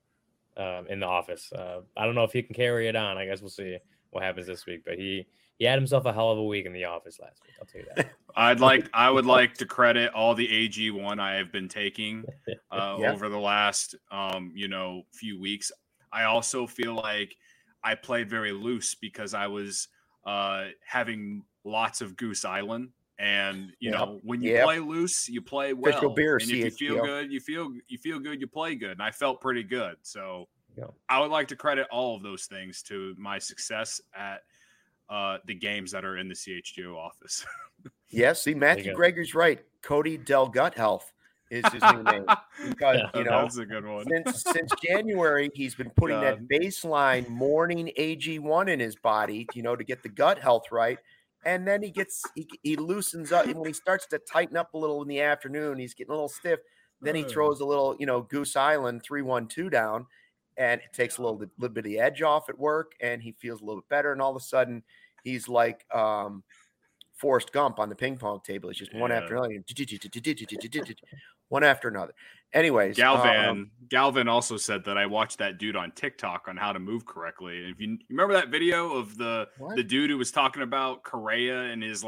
in the office. I don't know if he can carry it on. I guess we'll see what happens this week. But he had himself a hell of a week in the office last week. I'll tell you that. I would like to credit all the AG1 I have been taking over the last few weeks. I also feel like I played very loose because I was having lots of Goose Island. And when you play loose, you play well. Beer, and if you feel good, you feel good, you play good. And I felt pretty good. So I would like to credit all of those things to my success at the games that are in the CHGO office. See, Matthew Greger's right. Cody Del Gut Health is his new name. Because that's a good one. Since January, he's been putting that baseline morning AG1 in his body, to get the gut health right. And then he loosens up. And when he starts to tighten up a little in the afternoon, he's getting a little stiff. Then he throws a little, Goose Island 3-1-2 down, and it takes a little bit of the edge off at work, and he feels a little bit better. And all of a sudden, he's like Forrest Gump on the ping pong table. It's just one after another, one after another. Anyways, Galvin also said that I watched that dude on TikTok on how to move correctly. And if you remember that video of the dude who was talking about Correa and his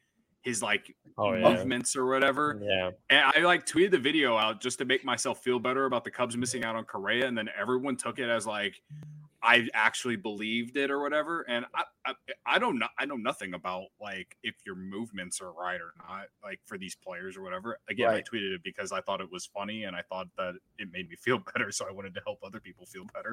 movements or whatever. Yeah. And I tweeted the video out just to make myself feel better about the Cubs missing out on Correa. And then everyone took it as I actually believed it or whatever. And I don't know. I know nothing about if your movements are right or not, for these players or whatever. Again, I tweeted it because I thought it was funny and I thought that it made me feel better. So I wanted to help other people feel better.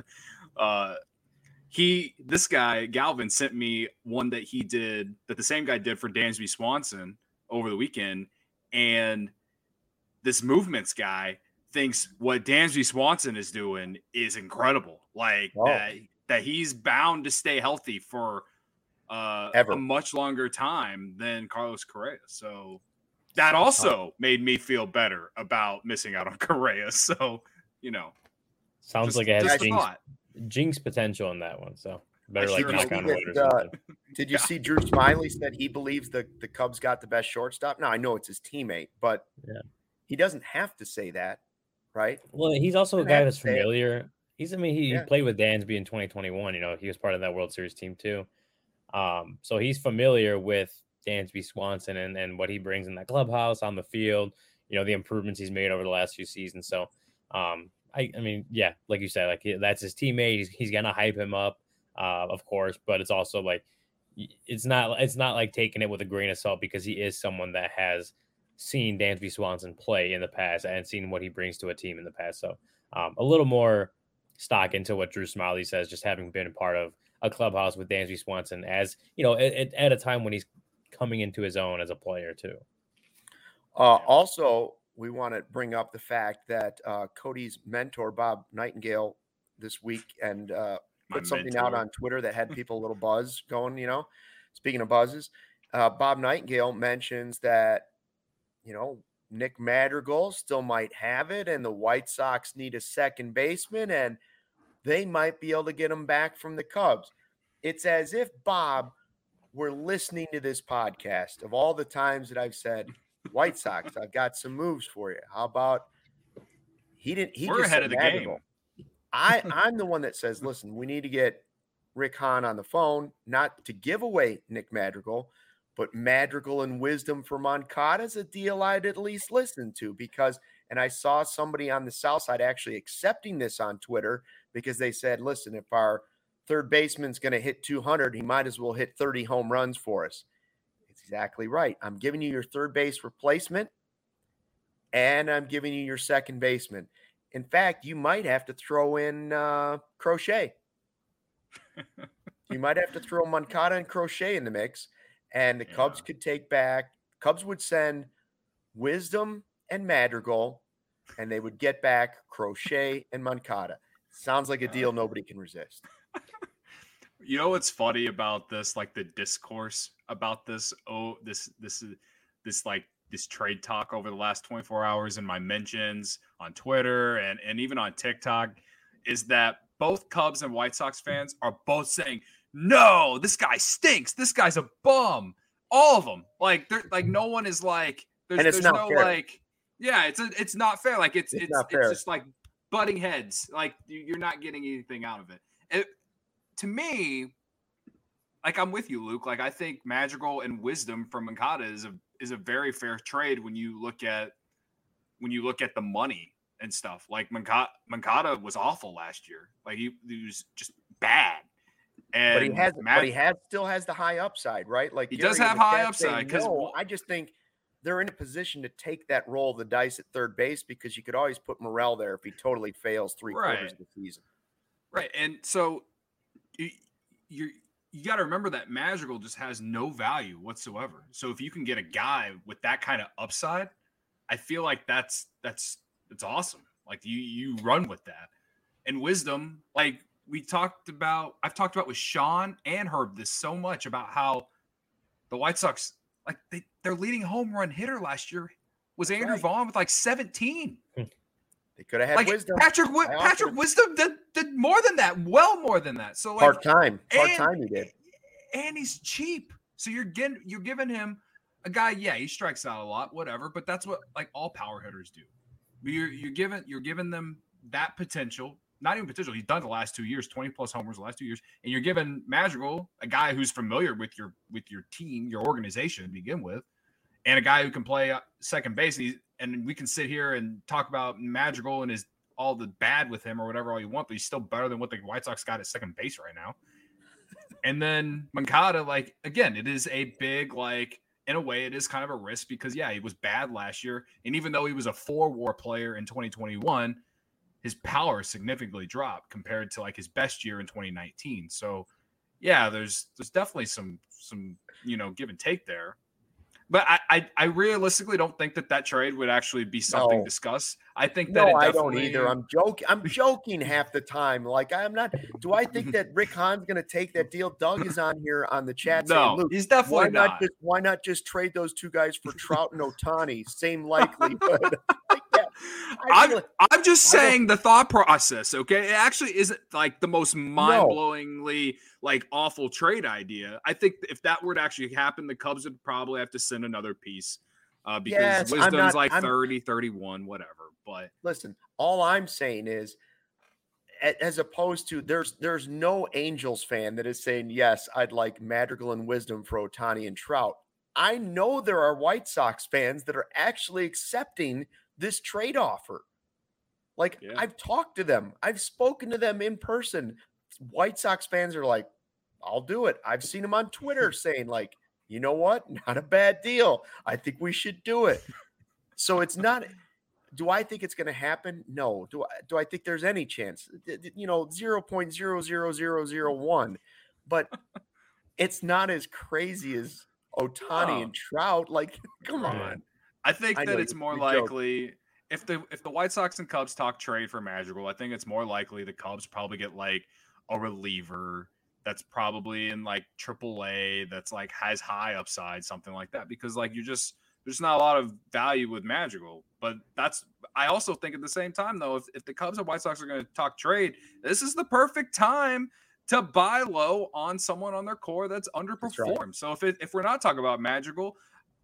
This guy, Galvin, sent me one that he did that the same guy did for Dansby Swanson over the weekend. And this movements guy thinks what Dansby Swanson is doing is incredible. That he's bound to stay healthy for a much longer time than Carlos Correa. So that also made me feel better about missing out on Correa. So, sounds like it has jinx potential in that one. So better knock on wood. Did you see Drew Smiley said he believes the Cubs got the best shortstop? Now I know it's his teammate, but he doesn't have to say that, right? Well, he's also a guy that's familiar. He played with Dansby in 2021. He was part of that World Series team too. So he's familiar with Dansby Swanson and what he brings in that clubhouse, on the field, the improvements he's made over the last few seasons. So, like you said, that's his teammate. He's going to hype him up, of course, but it's also it's not like taking it with a grain of salt because he is someone that has seen Dansby Swanson play in the past and seen what he brings to a team in the past. So, a little more stock into what Drew Smiley says, just having been a part of a clubhouse with Dansby Swanson as, at a time when he's coming into his own as a player too. Also, we want to bring up the fact that Cody's mentor, Bob Nightingale, this week and put something out on Twitter that had people a little buzz going, Speaking of buzzes, Bob Nightingale mentions that, Nick Madrigal still might have it and the White Sox need a second baseman and they might be able to get him back from the Cubs. It's as if Bob were listening to this podcast of all the times that I've said, White Sox, I've got some moves for you. How about we're ahead of the game. I'm the one that says, listen, we need to get Rick Hahn on the phone, not to give away Nick Madrigal, but Madrigal and Wisdom for Moncada is a deal I'd at least listen to because, and I saw somebody on the South Side actually accepting this on Twitter because they said, listen, if our third baseman's going to hit 200, he might as well hit 30 home runs for us. It's exactly right. I'm giving you your third base replacement and I'm giving you your second baseman. In fact, you might have to throw in Crochet. You might have to throw Moncada and Crochet in the mix. And the Cubs could take back. Cubs would send Wisdom and Madrigal, and they would get back Crochet and Moncada. Sounds like a deal nobody can resist. You know what's funny about this? Like the discourse about this. This trade talk over the last 24 hours in my mentions on Twitter and even on TikTok is that both Cubs and White Sox fans are both saying, no, this guy stinks. This guy's a bum. All of them. Like, they're like, no one is like, there's no fair. Like, yeah, it's not fair. Like it's just like butting heads. Like you're not getting anything out of it. To me, like I'm with you, Luke. Like I think Madrigal and Wisdom from Moncada is a very fair trade when you look at the money and stuff. Like Moncada was awful last year. Like he was just bad. And but he still has the high upside, right? Like he does have high upside. I just think they're in a position to take that roll of the dice at third base because you could always put Morel there if he totally fails three-quarters of the season. Right, and so you got to remember that Madrigal just has no value whatsoever. So if you can get a guy with that kind of upside, I feel like that's awesome. Like you run with that. And Wisdom, like I've talked about with Sean and Herb this so much about how the White Sox, like their leading home run hitter last year was Andrew Vaughn with like 17. They could have had like Wisdom. Patrick Wisdom did more than that, well more than that. So like part-time he did. And he's cheap. So you're giving him a guy, he strikes out a lot, whatever, but that's what like all power hitters do. You're giving them that potential. Not even potential. He's done the last 2 years, 20 plus homers the last 2 years. And you're giving Madrigal, a guy who's familiar with your team, your organization to begin with, and a guy who can play second base. And we can sit here and talk about Madrigal and all the bad with him or whatever all you want, but he's still better than what the White Sox got at second base right now. And then Moncada, like, again, it is a big, like, in a way, it is kind of a risk because, he was bad last year. And even though he was a 4-WAR player in 2021, his power significantly dropped compared to like his best year in 2019. So there's definitely some give and take there. But I realistically don't think that trade would actually be something discussed. I think that I don't either. I'm joking half the time. Like I'm not. Do I think that Rick Hahn's going to take that deal? Doug is on here on the chat. No, saying, Luke, he's definitely not. Why not just trade those two guys for Trout and Ohtani? Same likelihood. I'm just saying the thought process, okay? It actually isn't like the most mind-blowingly like awful trade idea. I think if that were to actually happen, the Cubs would probably have to send another piece because Wisdom's 30, 31, whatever. But listen, all I'm saying is as opposed to there's no Angels fan that is saying, yes, I'd like Madrigal and Wisdom for Ohtani and Trout. I know there are White Sox fans that are actually accepting this trade offer. Like I've talked to them. I've spoken to them in person. White Sox fans are like, I'll do it. I've seen them on Twitter saying like, you know what? Not a bad deal. I think we should do it. So it's not, do I think it's going to happen? No. Do I think there's any chance? 0.00001, but it's not as crazy as Ohtani and Trout. Like, come on. I think that it's more likely if the White Sox and Cubs talk trade for Madrigal, I think it's more likely the Cubs probably get like a reliever that's probably in like AAA that's like has high upside, something like that. Because like there's not a lot of value with Madrigal. But I also think at the same time though, if the Cubs and White Sox are going to talk trade, this is the perfect time to buy low on someone on their core that's underperformed. Right. So if we're not talking about Madrigal,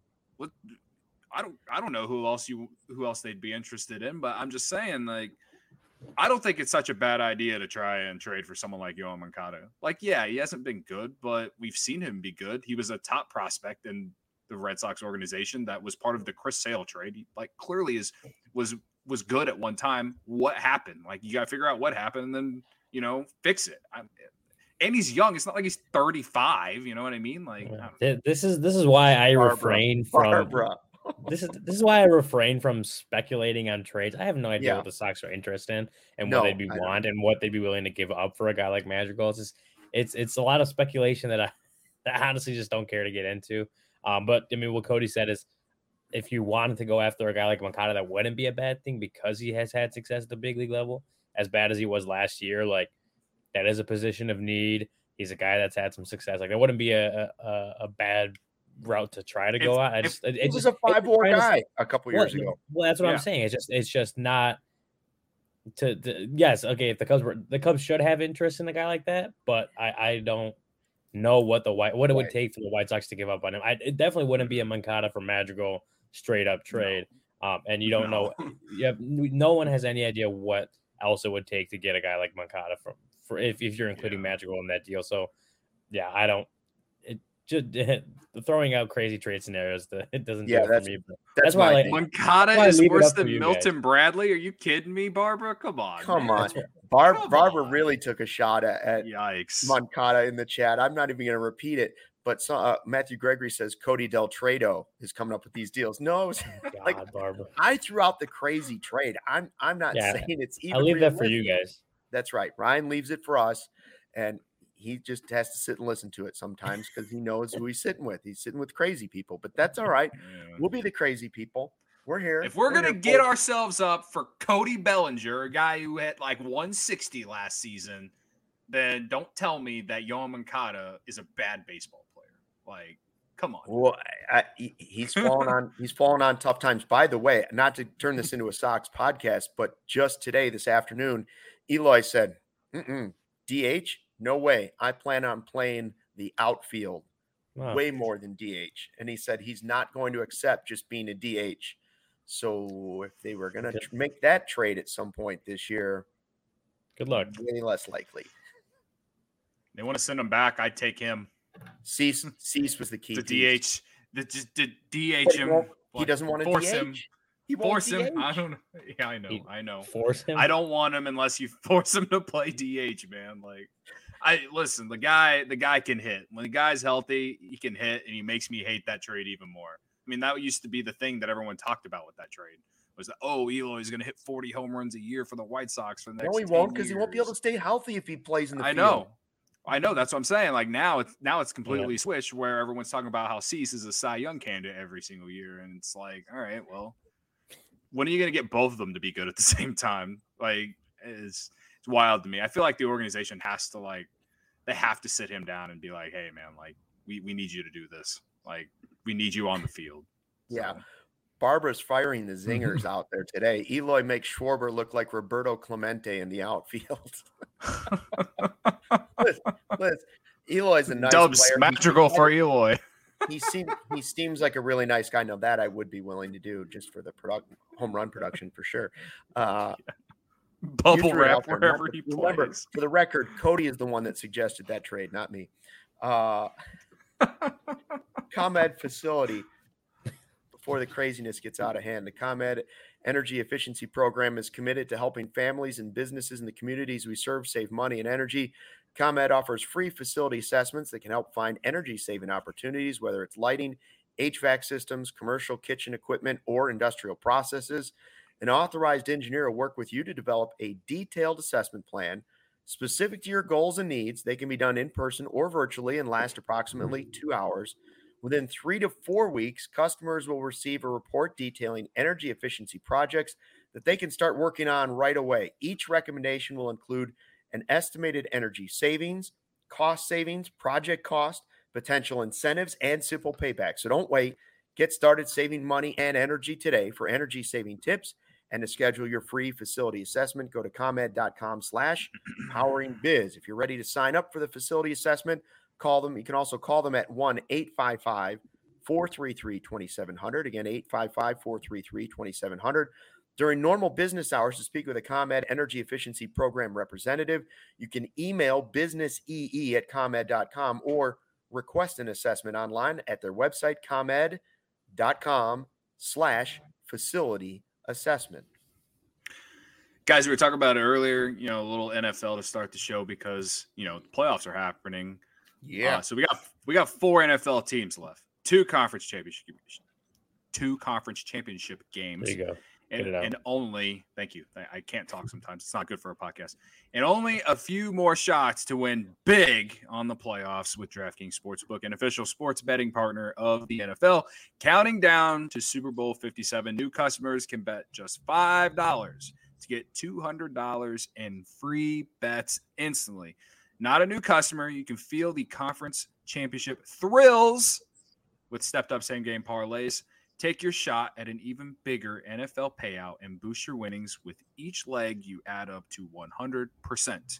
I don't know who else they'd be interested in, but I'm just saying, like, I don't think it's such a bad idea to try and trade for someone like Yoan Moncada. Like, yeah, he hasn't been good, but we've seen him be good. He was a top prospect in the Red Sox organization that was part of the Chris Sale trade. He like clearly was good at one time. What happened? Like, you got to figure out what happened and then, fix it. And he's young. It's not like he's 35. You know what I mean? Like, this is why I refrain from. This is why I refrain from speculating on trades. I have no idea what the Sox are interested in and what they'd want and what they'd be willing to give up for a guy like Madrigal. It's a lot of speculation that I honestly just don't care to get into. But I mean, what Cody said is, if you wanted to go after a guy like Moncada, that wouldn't be a bad thing because he has had success at the big league level, as bad as he was last year. Like, that is a position of need. He's a guy that's had some success. Like, that wouldn't be a bad route to try to go out. It was a 5-war guy a couple years ago. Well, that's what I'm saying. It's just not yes, okay, if the Cubs should have interest in a guy like that, but I don't know what it would take for the White Sox to give up on him. It definitely wouldn't be a Moncada for Madrigal straight up trade. No. And you don't know. No one has any idea what else it would take to get a guy like Moncada for if you're including Madrigal in that deal. So yeah, I don't. Just throwing out crazy trade scenarios, it doesn't do it for me. But that's why like Moncada is worse than Milton Bradley. Are you kidding me, Barbara? Come on. Barbara really took a shot at yikes Moncada in the chat. I'm not even going to repeat it, but Matthew Gregory says Cody Del Trado is coming up with these deals. No, like Barbara. I threw out the crazy trade. I'm not saying it's even. I'll leave that for you guys. That's right. Ryan leaves it for us, and he just has to sit and listen to it sometimes because he knows who he's sitting with. He's sitting with crazy people, but that's all right. We'll be the crazy people. We're here. If we're going to get ourselves up for Cody Bellinger, a guy who had like 160 last season, then don't tell me that Yoan Moncada is a bad baseball player. Like, come on. Well, he's fallen on tough times. By the way, not to turn this into a Sox podcast, but just today, this afternoon, Eloy said, DH? No way. I plan on playing the outfield way more than DH. And he said he's not going to accept just being a DH. So if they were going to make that trade at some point this year, good luck. Way less likely. They want to send him back. I'd take him. Cease was the key. The DH. The DH him. He doesn't want to force DH. Him. He force him. I don't know. Yeah, I know. Force him. I don't want him unless you force him to play DH, man. Like, listen. The guy can hit. When the guy's healthy, he can hit, and he makes me hate that trade even more. I mean, that used to be the thing that everyone talked about with that trade. Was that, Eloy's going to hit 40 home runs a year for the White Sox for the next 10 years. No, he won't, because he won't be able to stay healthy if he plays in the field. I know. That's what I'm saying. Like, now it's completely switched where everyone's talking about how Cease is a Cy Young candidate every single year. And it's like, all right, well, when are you going to get both of them to be good at the same time? Like, it's wild to me. I feel like the organization has to, like, they have to sit him down and be like, hey, man, like, we need you to do this. Like, we need you on the field. Yeah. Barbara's firing the zingers out there today. Eloy makes Schwarber look like Roberto Clemente in the outfield. Listen, Eloy's a nice Dubs player. Madrigal for Eloy. He seems like a really nice guy. Now that I would be willing to do just for the home run production for sure. Bubble wrap wherever he plays. Remember, for the record, Cody is the one that suggested that trade, not me. ComEd facility. Before the craziness gets out of hand, the ComEd Energy Efficiency Program is committed to helping families and businesses in the communities we serve save money and energy. ComEd offers free facility assessments that can help find energy-saving opportunities, whether it's lighting, HVAC systems, commercial kitchen equipment, or industrial processes. An authorized engineer will work with you to develop a detailed assessment plan specific to your goals and needs. They can be done in person or virtually and last approximately 2 hours. Within 3 to 4 weeks, customers will receive a report detailing energy efficiency projects that they can start working on right away. Each recommendation will include an estimated energy savings, cost savings, project cost, potential incentives, and simple payback. So don't wait. Get started saving money and energy today. For energy saving tips and to schedule your free facility assessment, go to ComEd.com/poweringbiz. If you're ready to sign up for the facility assessment, call them. You can also call them at 1-855-433-2700. Again, 855-433-2700. During normal business hours to speak with a ComEd Energy Efficiency Program representative, you can email businessee@comed.com or request an assessment online at their website, comed.com/facility assessment. Guys, we were talking about it earlier, a little NFL to start the show because, the playoffs are happening. Yeah. So we got 4 NFL teams left, 2 conference championship games. There you go. And only, thank you. I can't talk sometimes. It's not good for a podcast. And only a few more shots to win big on the playoffs with DraftKings Sportsbook, an official sports betting partner of the NFL. Counting down to Super Bowl 57, new customers can bet just $5 to get $200 in free bets instantly. Not a new customer. You can feel the conference championship thrills with stepped-up same-game parlays. Take your shot at an even bigger NFL payout and boost your winnings with each leg you add up to 100%.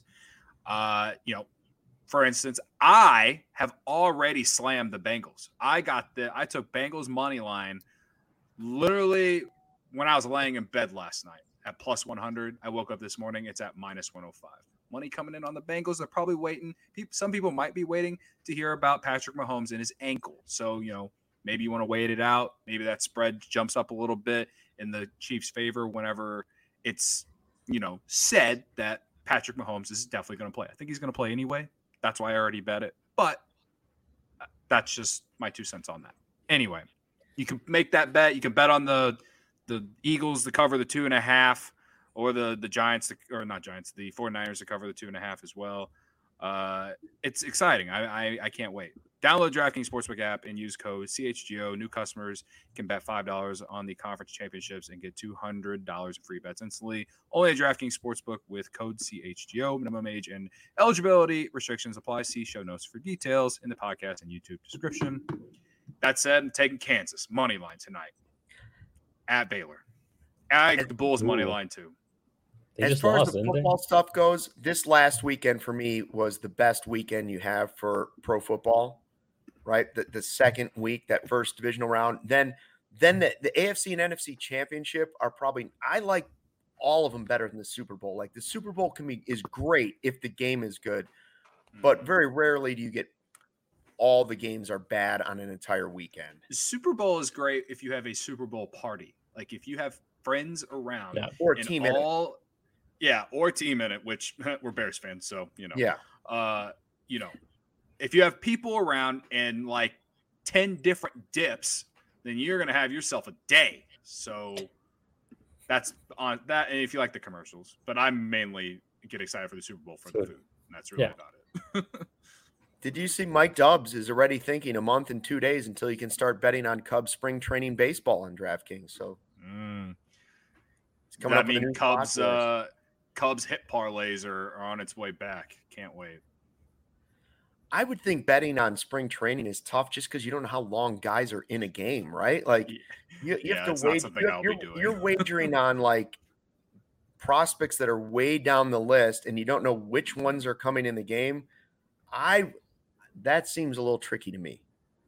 For instance, I have already slammed the Bengals. I took Bengals money line literally when I was laying in bed last night at plus 100. I woke up this morning. It's at minus 105. Money coming in on the Bengals. They're probably waiting. Some people might be waiting to hear about Patrick Mahomes and his ankle. So, maybe you want to wait it out. Maybe that spread jumps up a little bit in the Chiefs' favor whenever it's, said that Patrick Mahomes is definitely going to play. I think he's going to play anyway. That's why I already bet it. But that's just my 2 cents on that. Anyway, you can make that bet. You can bet on the Eagles to cover the 2.5 or the Giants, the 49ers to cover the 2.5 as well. It's exciting. I can't wait. Download the DraftKings Sportsbook app and use code CHGO. New customers can bet $5 on the conference championships and get $200 in free bets instantly. Only at DraftKings Sportsbook with code CHGO. Minimum age and eligibility restrictions apply. See show notes for details in the podcast and YouTube description. That said, I'm taking Kansas money line tonight at Baylor. I the Bulls money line too. As far as the football stuff goes, this last weekend for me was the best weekend you have for pro football, right? The second week, that first divisional round. Then the AFC and NFC championship are probably – I like all of them better than the Super Bowl. Like the Super Bowl is great if the game is good, but very rarely do you get all the games are bad on an entire weekend. The Super Bowl is great if you have a Super Bowl party. Like if you have friends around. Yeah, or a team in it. Yeah, or team in it, which we're Bears fans, so Yeah. If you have people around and like 10 different dips, then you're gonna have yourself a day. So that's on that. And if you like the commercials, but I mainly get excited for the Super Bowl for the food. And that's really about it. Did you see Mike Dubs is already thinking a month and 2 days until you can start betting on Cubs spring training baseball on DraftKings? So it's coming up. I mean, Cubs hit parlays are on its way back. Can't wait. I would think betting on spring training is tough just because you don't know how long guys are in a game, right? Like you have to wait. You're wagering on like prospects that are way down the list and you don't know which ones are coming in the game. That seems a little tricky to me.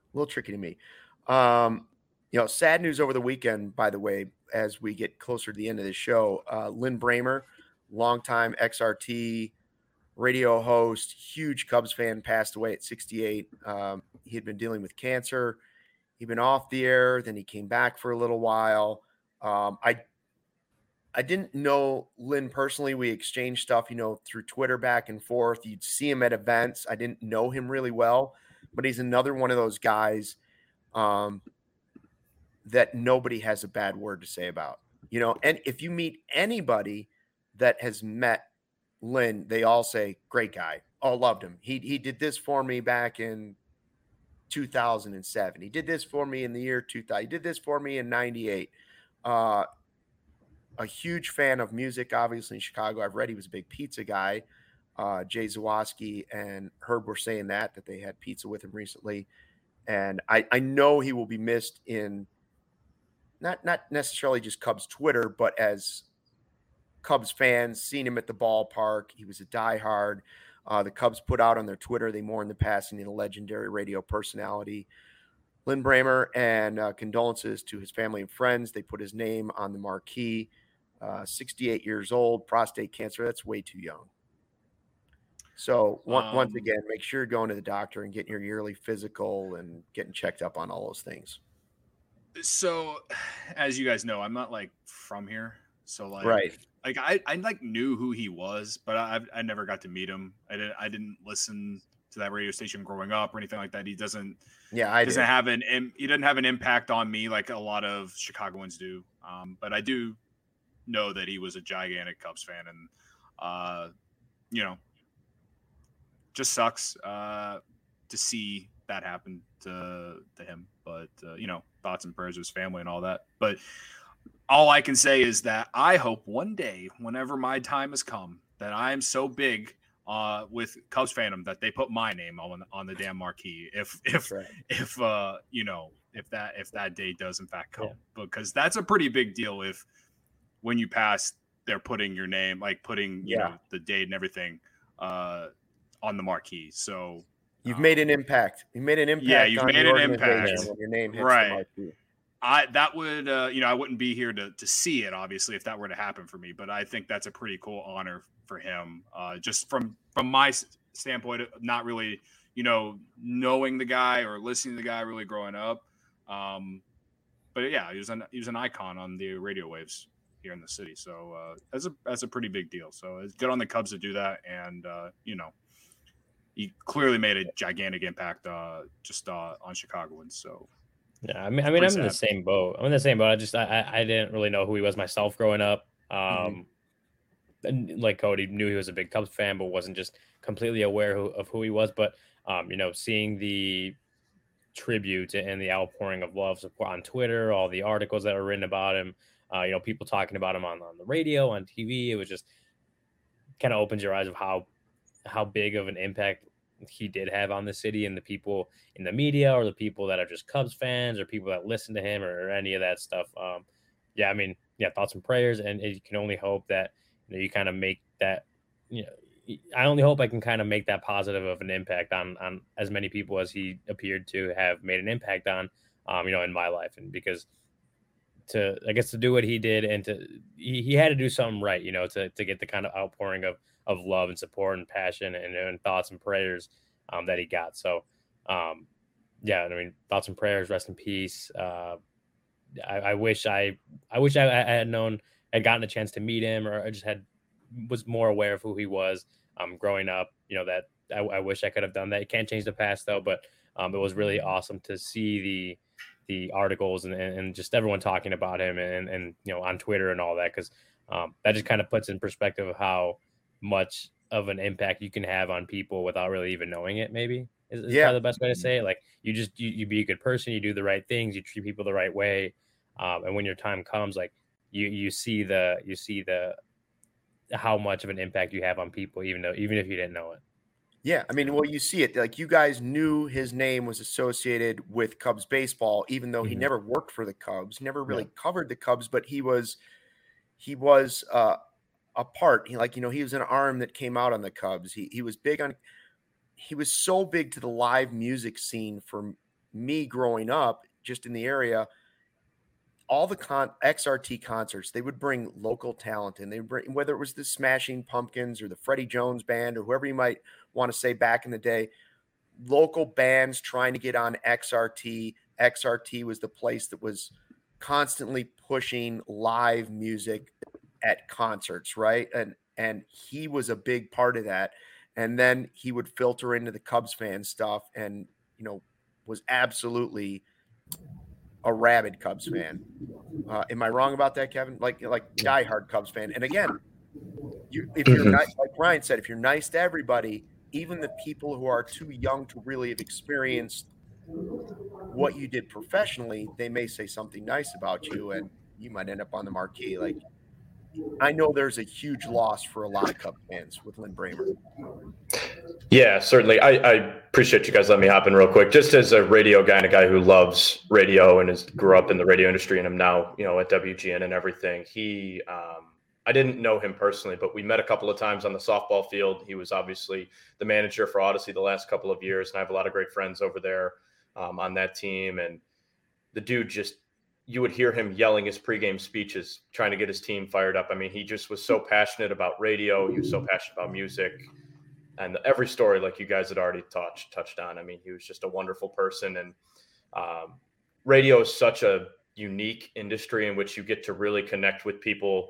Sad news over the weekend, by the way, as we get closer to the end of the show, Lynn Bramer, longtime XRT radio host, huge Cubs fan, passed away at 68. He had been dealing with cancer. He'd been off the air. Then he came back for a little while. I didn't know Lynn personally. We exchanged stuff, through Twitter back and forth. You'd see him at events. I didn't know him really well, but he's another one of those guys that nobody has a bad word to say about, and if you meet anybody that has met Lynn, they all say, great guy. Oh, loved him. He did this for me back in 2007. He did this for me in the year 2000. He did this for me in 98. A huge fan of music, obviously, in Chicago. I've read he was a big pizza guy. Jay Zawaski and Herb were saying that they had pizza with him recently. And I know he will be missed in not necessarily just Cubs Twitter, but as Cubs fans, seen him at the ballpark. He was a diehard. The Cubs put out on their Twitter, they mourn the passing of the legendary radio personality Lin Bramer, and condolences to his family and friends. They put his name on the marquee. 68 years old, prostate cancer. That's way too young. So once again, make sure you're going to the doctor and getting your yearly physical and getting checked up on all those things. So, as you guys know, I'm not like from here. So right. Like I like knew who he was, but I never got to meet him. I didn't listen to that radio station growing up or anything like that. He doesn't. Yeah, he doesn't have an impact on me like a lot of Chicagoans do. But I do know that he was a gigantic Cubs fan, and just sucks to see that happen to him. But thoughts and prayers to his family and all that. But all I can say is that I hope one day, whenever my time has come, that I am so big with Cubs fandom that they put my name on the damn marquee. If that day does in fact come, because that's a pretty big deal. If when you pass, they're putting your name, like putting the date and everything on the marquee. So you've made an impact. You made an impact. Yeah, you've made an impact when your name hits the marquee. That would, I wouldn't be here to see it, obviously, if that were to happen for me. But I think that's a pretty cool honor for him. Just from my standpoint, not really, knowing the guy or listening to the guy really growing up. But yeah, he was an icon on the radio waves here in the city. So that's a pretty big deal. So it's good on the Cubs to do that. And, he clearly made a gigantic impact just on Chicagoans. So. Yeah, I mean, I'm in the same boat. I didn't really know who he was myself growing up. And like Cody, knew he was a big Cubs fan, but wasn't just completely aware of who he was. But seeing the tribute and the outpouring of love support on Twitter, all the articles that were written about him, people talking about him on the radio, on TV, it was just kind of opens your eyes of how big of an impact he did have on the city and the people in the media, or the people that are just Cubs fans, or people that listen to him, or any of that stuff. Thoughts and prayers. And you can only hope that you kind of make that, I only hope I can kind of make that positive of an impact on as many people as he appeared to have made an impact on, in my life. And because to do what he did, and he had to do something right, to get the kind of outpouring of love and support and passion and thoughts and prayers that he got. So, thoughts and prayers, rest in peace. I wish I had gotten a chance to meet him, or I just was more aware of who he was growing up. That I wish I could have done that. You can't change the past though, but it was really awesome to see the articles and just everyone talking about him and on Twitter and all that, because that just kind of puts in perspective of how much of an impact you can have on people without really even knowing it. Maybe is probably the best way to say it. Like you be a good person, you do the right things, you treat people the right way, and when your time comes, like you see the how much of an impact you have on people, even if you didn't know it. Yeah, I mean, well, you see it. Like, you guys knew his name was associated with Cubs baseball, even though he never worked for the Cubs, never really covered the Cubs, but he was a part. He was an arm that came out on the Cubs. He was big on. He was so big to the live music scene for me growing up, just in the area. All the XRT concerts, they would bring local talent, and they would bring, whether it was the Smashing Pumpkins or the Freddie Jones Band or whoever you might want to say back in the day, local bands trying to get on XRT. XRT was the place that was constantly pushing live music at concerts, right? And he was a big part of that. And then he would filter into the Cubs fan stuff, and was absolutely a rabid Cubs fan. Am I wrong about that, Kevin? Like diehard Cubs fan. And again, if you're nice, like Ryan said, if you're nice to everybody, even the people who are too young to really have experienced what you did professionally, they may say something nice about you, and you might end up on the marquee. Like, I know there's a huge loss for a lot of Cubs fans with Lin Bramer. Yeah, certainly. I appreciate you guys letting me hop in real quick. Just as a radio guy and a guy who loves radio and grew up in the radio industry, and I'm now, at WGN and everything. He, I didn't know him personally, but we met a couple of times on the softball field. He was obviously the manager for Odyssey the last couple of years, and I have a lot of great friends over there on that team. And the dude just, you would hear him yelling his pregame speeches, trying to get his team fired up. I mean, he just was so passionate about radio. He was so passionate about music. And every story, like you guys had already touched on, I mean, he was just a wonderful person. And radio is such a unique industry in which you get to really connect with people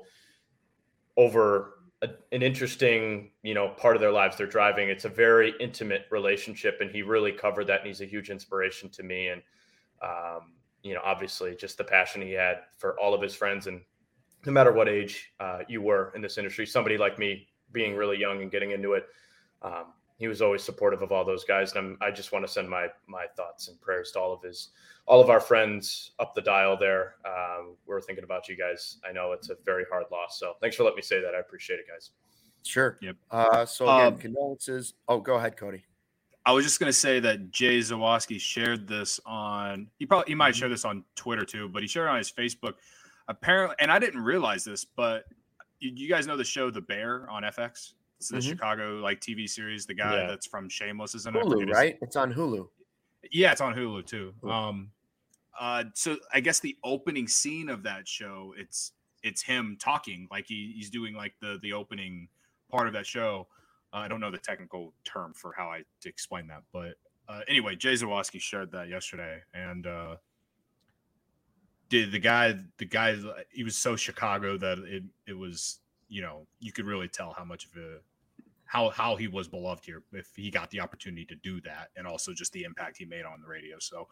over an interesting, part of their lives they're driving. It's a very intimate relationship, and he really covered that, and he's a huge inspiration to me. And, obviously just the passion he had for all of his friends, and no matter what age you were in this industry, somebody like me being really young and getting into it, he was always supportive of all those guys. And I just want to send my thoughts and prayers to all of our friends up the dial there. We're thinking about you guys. I know it's a very hard loss. So thanks for letting me say that. I appreciate it, guys. Sure. Yep. So again, condolences. Oh, go ahead, Cody. I was just going to say that Jay Zawaski shared this on, he might share this on Twitter too, but he shared it on his Facebook. Apparently, and I didn't realize this, but you guys know the show The Bear on FX? It's the Chicago TV series. The guy that's from Shameless is in Hulu, right? It's on Hulu. Yeah, it's on Hulu too. So I guess the opening scene of that show, it's him talking, like he's doing like the opening part of that show. I don't know the technical term for how I to explain that, but anyway, Jay Zawaski shared that yesterday, and the guy he was so Chicago that it was, you could really tell how much of how he was beloved here if he got the opportunity to do that, and also just the impact he made on the radio. So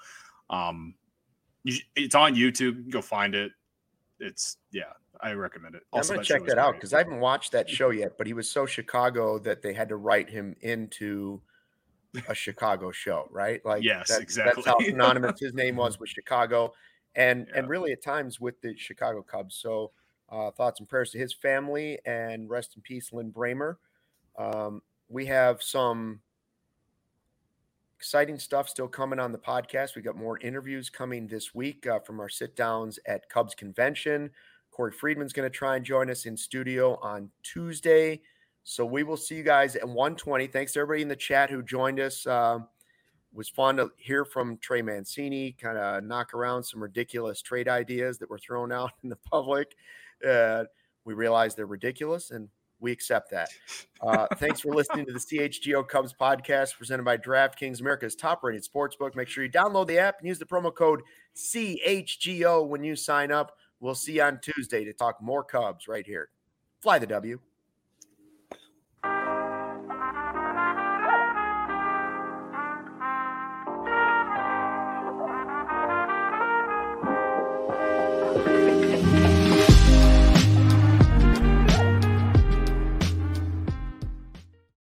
it's on YouTube. Go find it. I recommend it. Also, I'm going to check that out because I haven't watched that show yet, but he was so Chicago that they had to write him into a Chicago show, right? Like, yes, exactly. That's how synonymous his name was with Chicago, and really at times with the Chicago Cubs. So thoughts and prayers to his family, and rest in peace, Lin Bramer. We have some exciting stuff still coming on the podcast. We got more interviews coming this week from our sit downs at Cubs Convention. Corey Friedman's going to try and join us in studio on Tuesday. So we will see you guys at 1:20. Thanks to everybody in the chat who joined us. It was fun to hear from Trey Mancini, kind of knock around some ridiculous trade ideas that were thrown out in the public. We realize they're ridiculous, and we accept that. Thanks for listening to the CHGO Cubs podcast presented by DraftKings, America's top-rated sportsbook. Make sure you download the app and use the promo code CHGO when you sign up. We'll see you on Tuesday to talk more Cubs right here. Fly the W.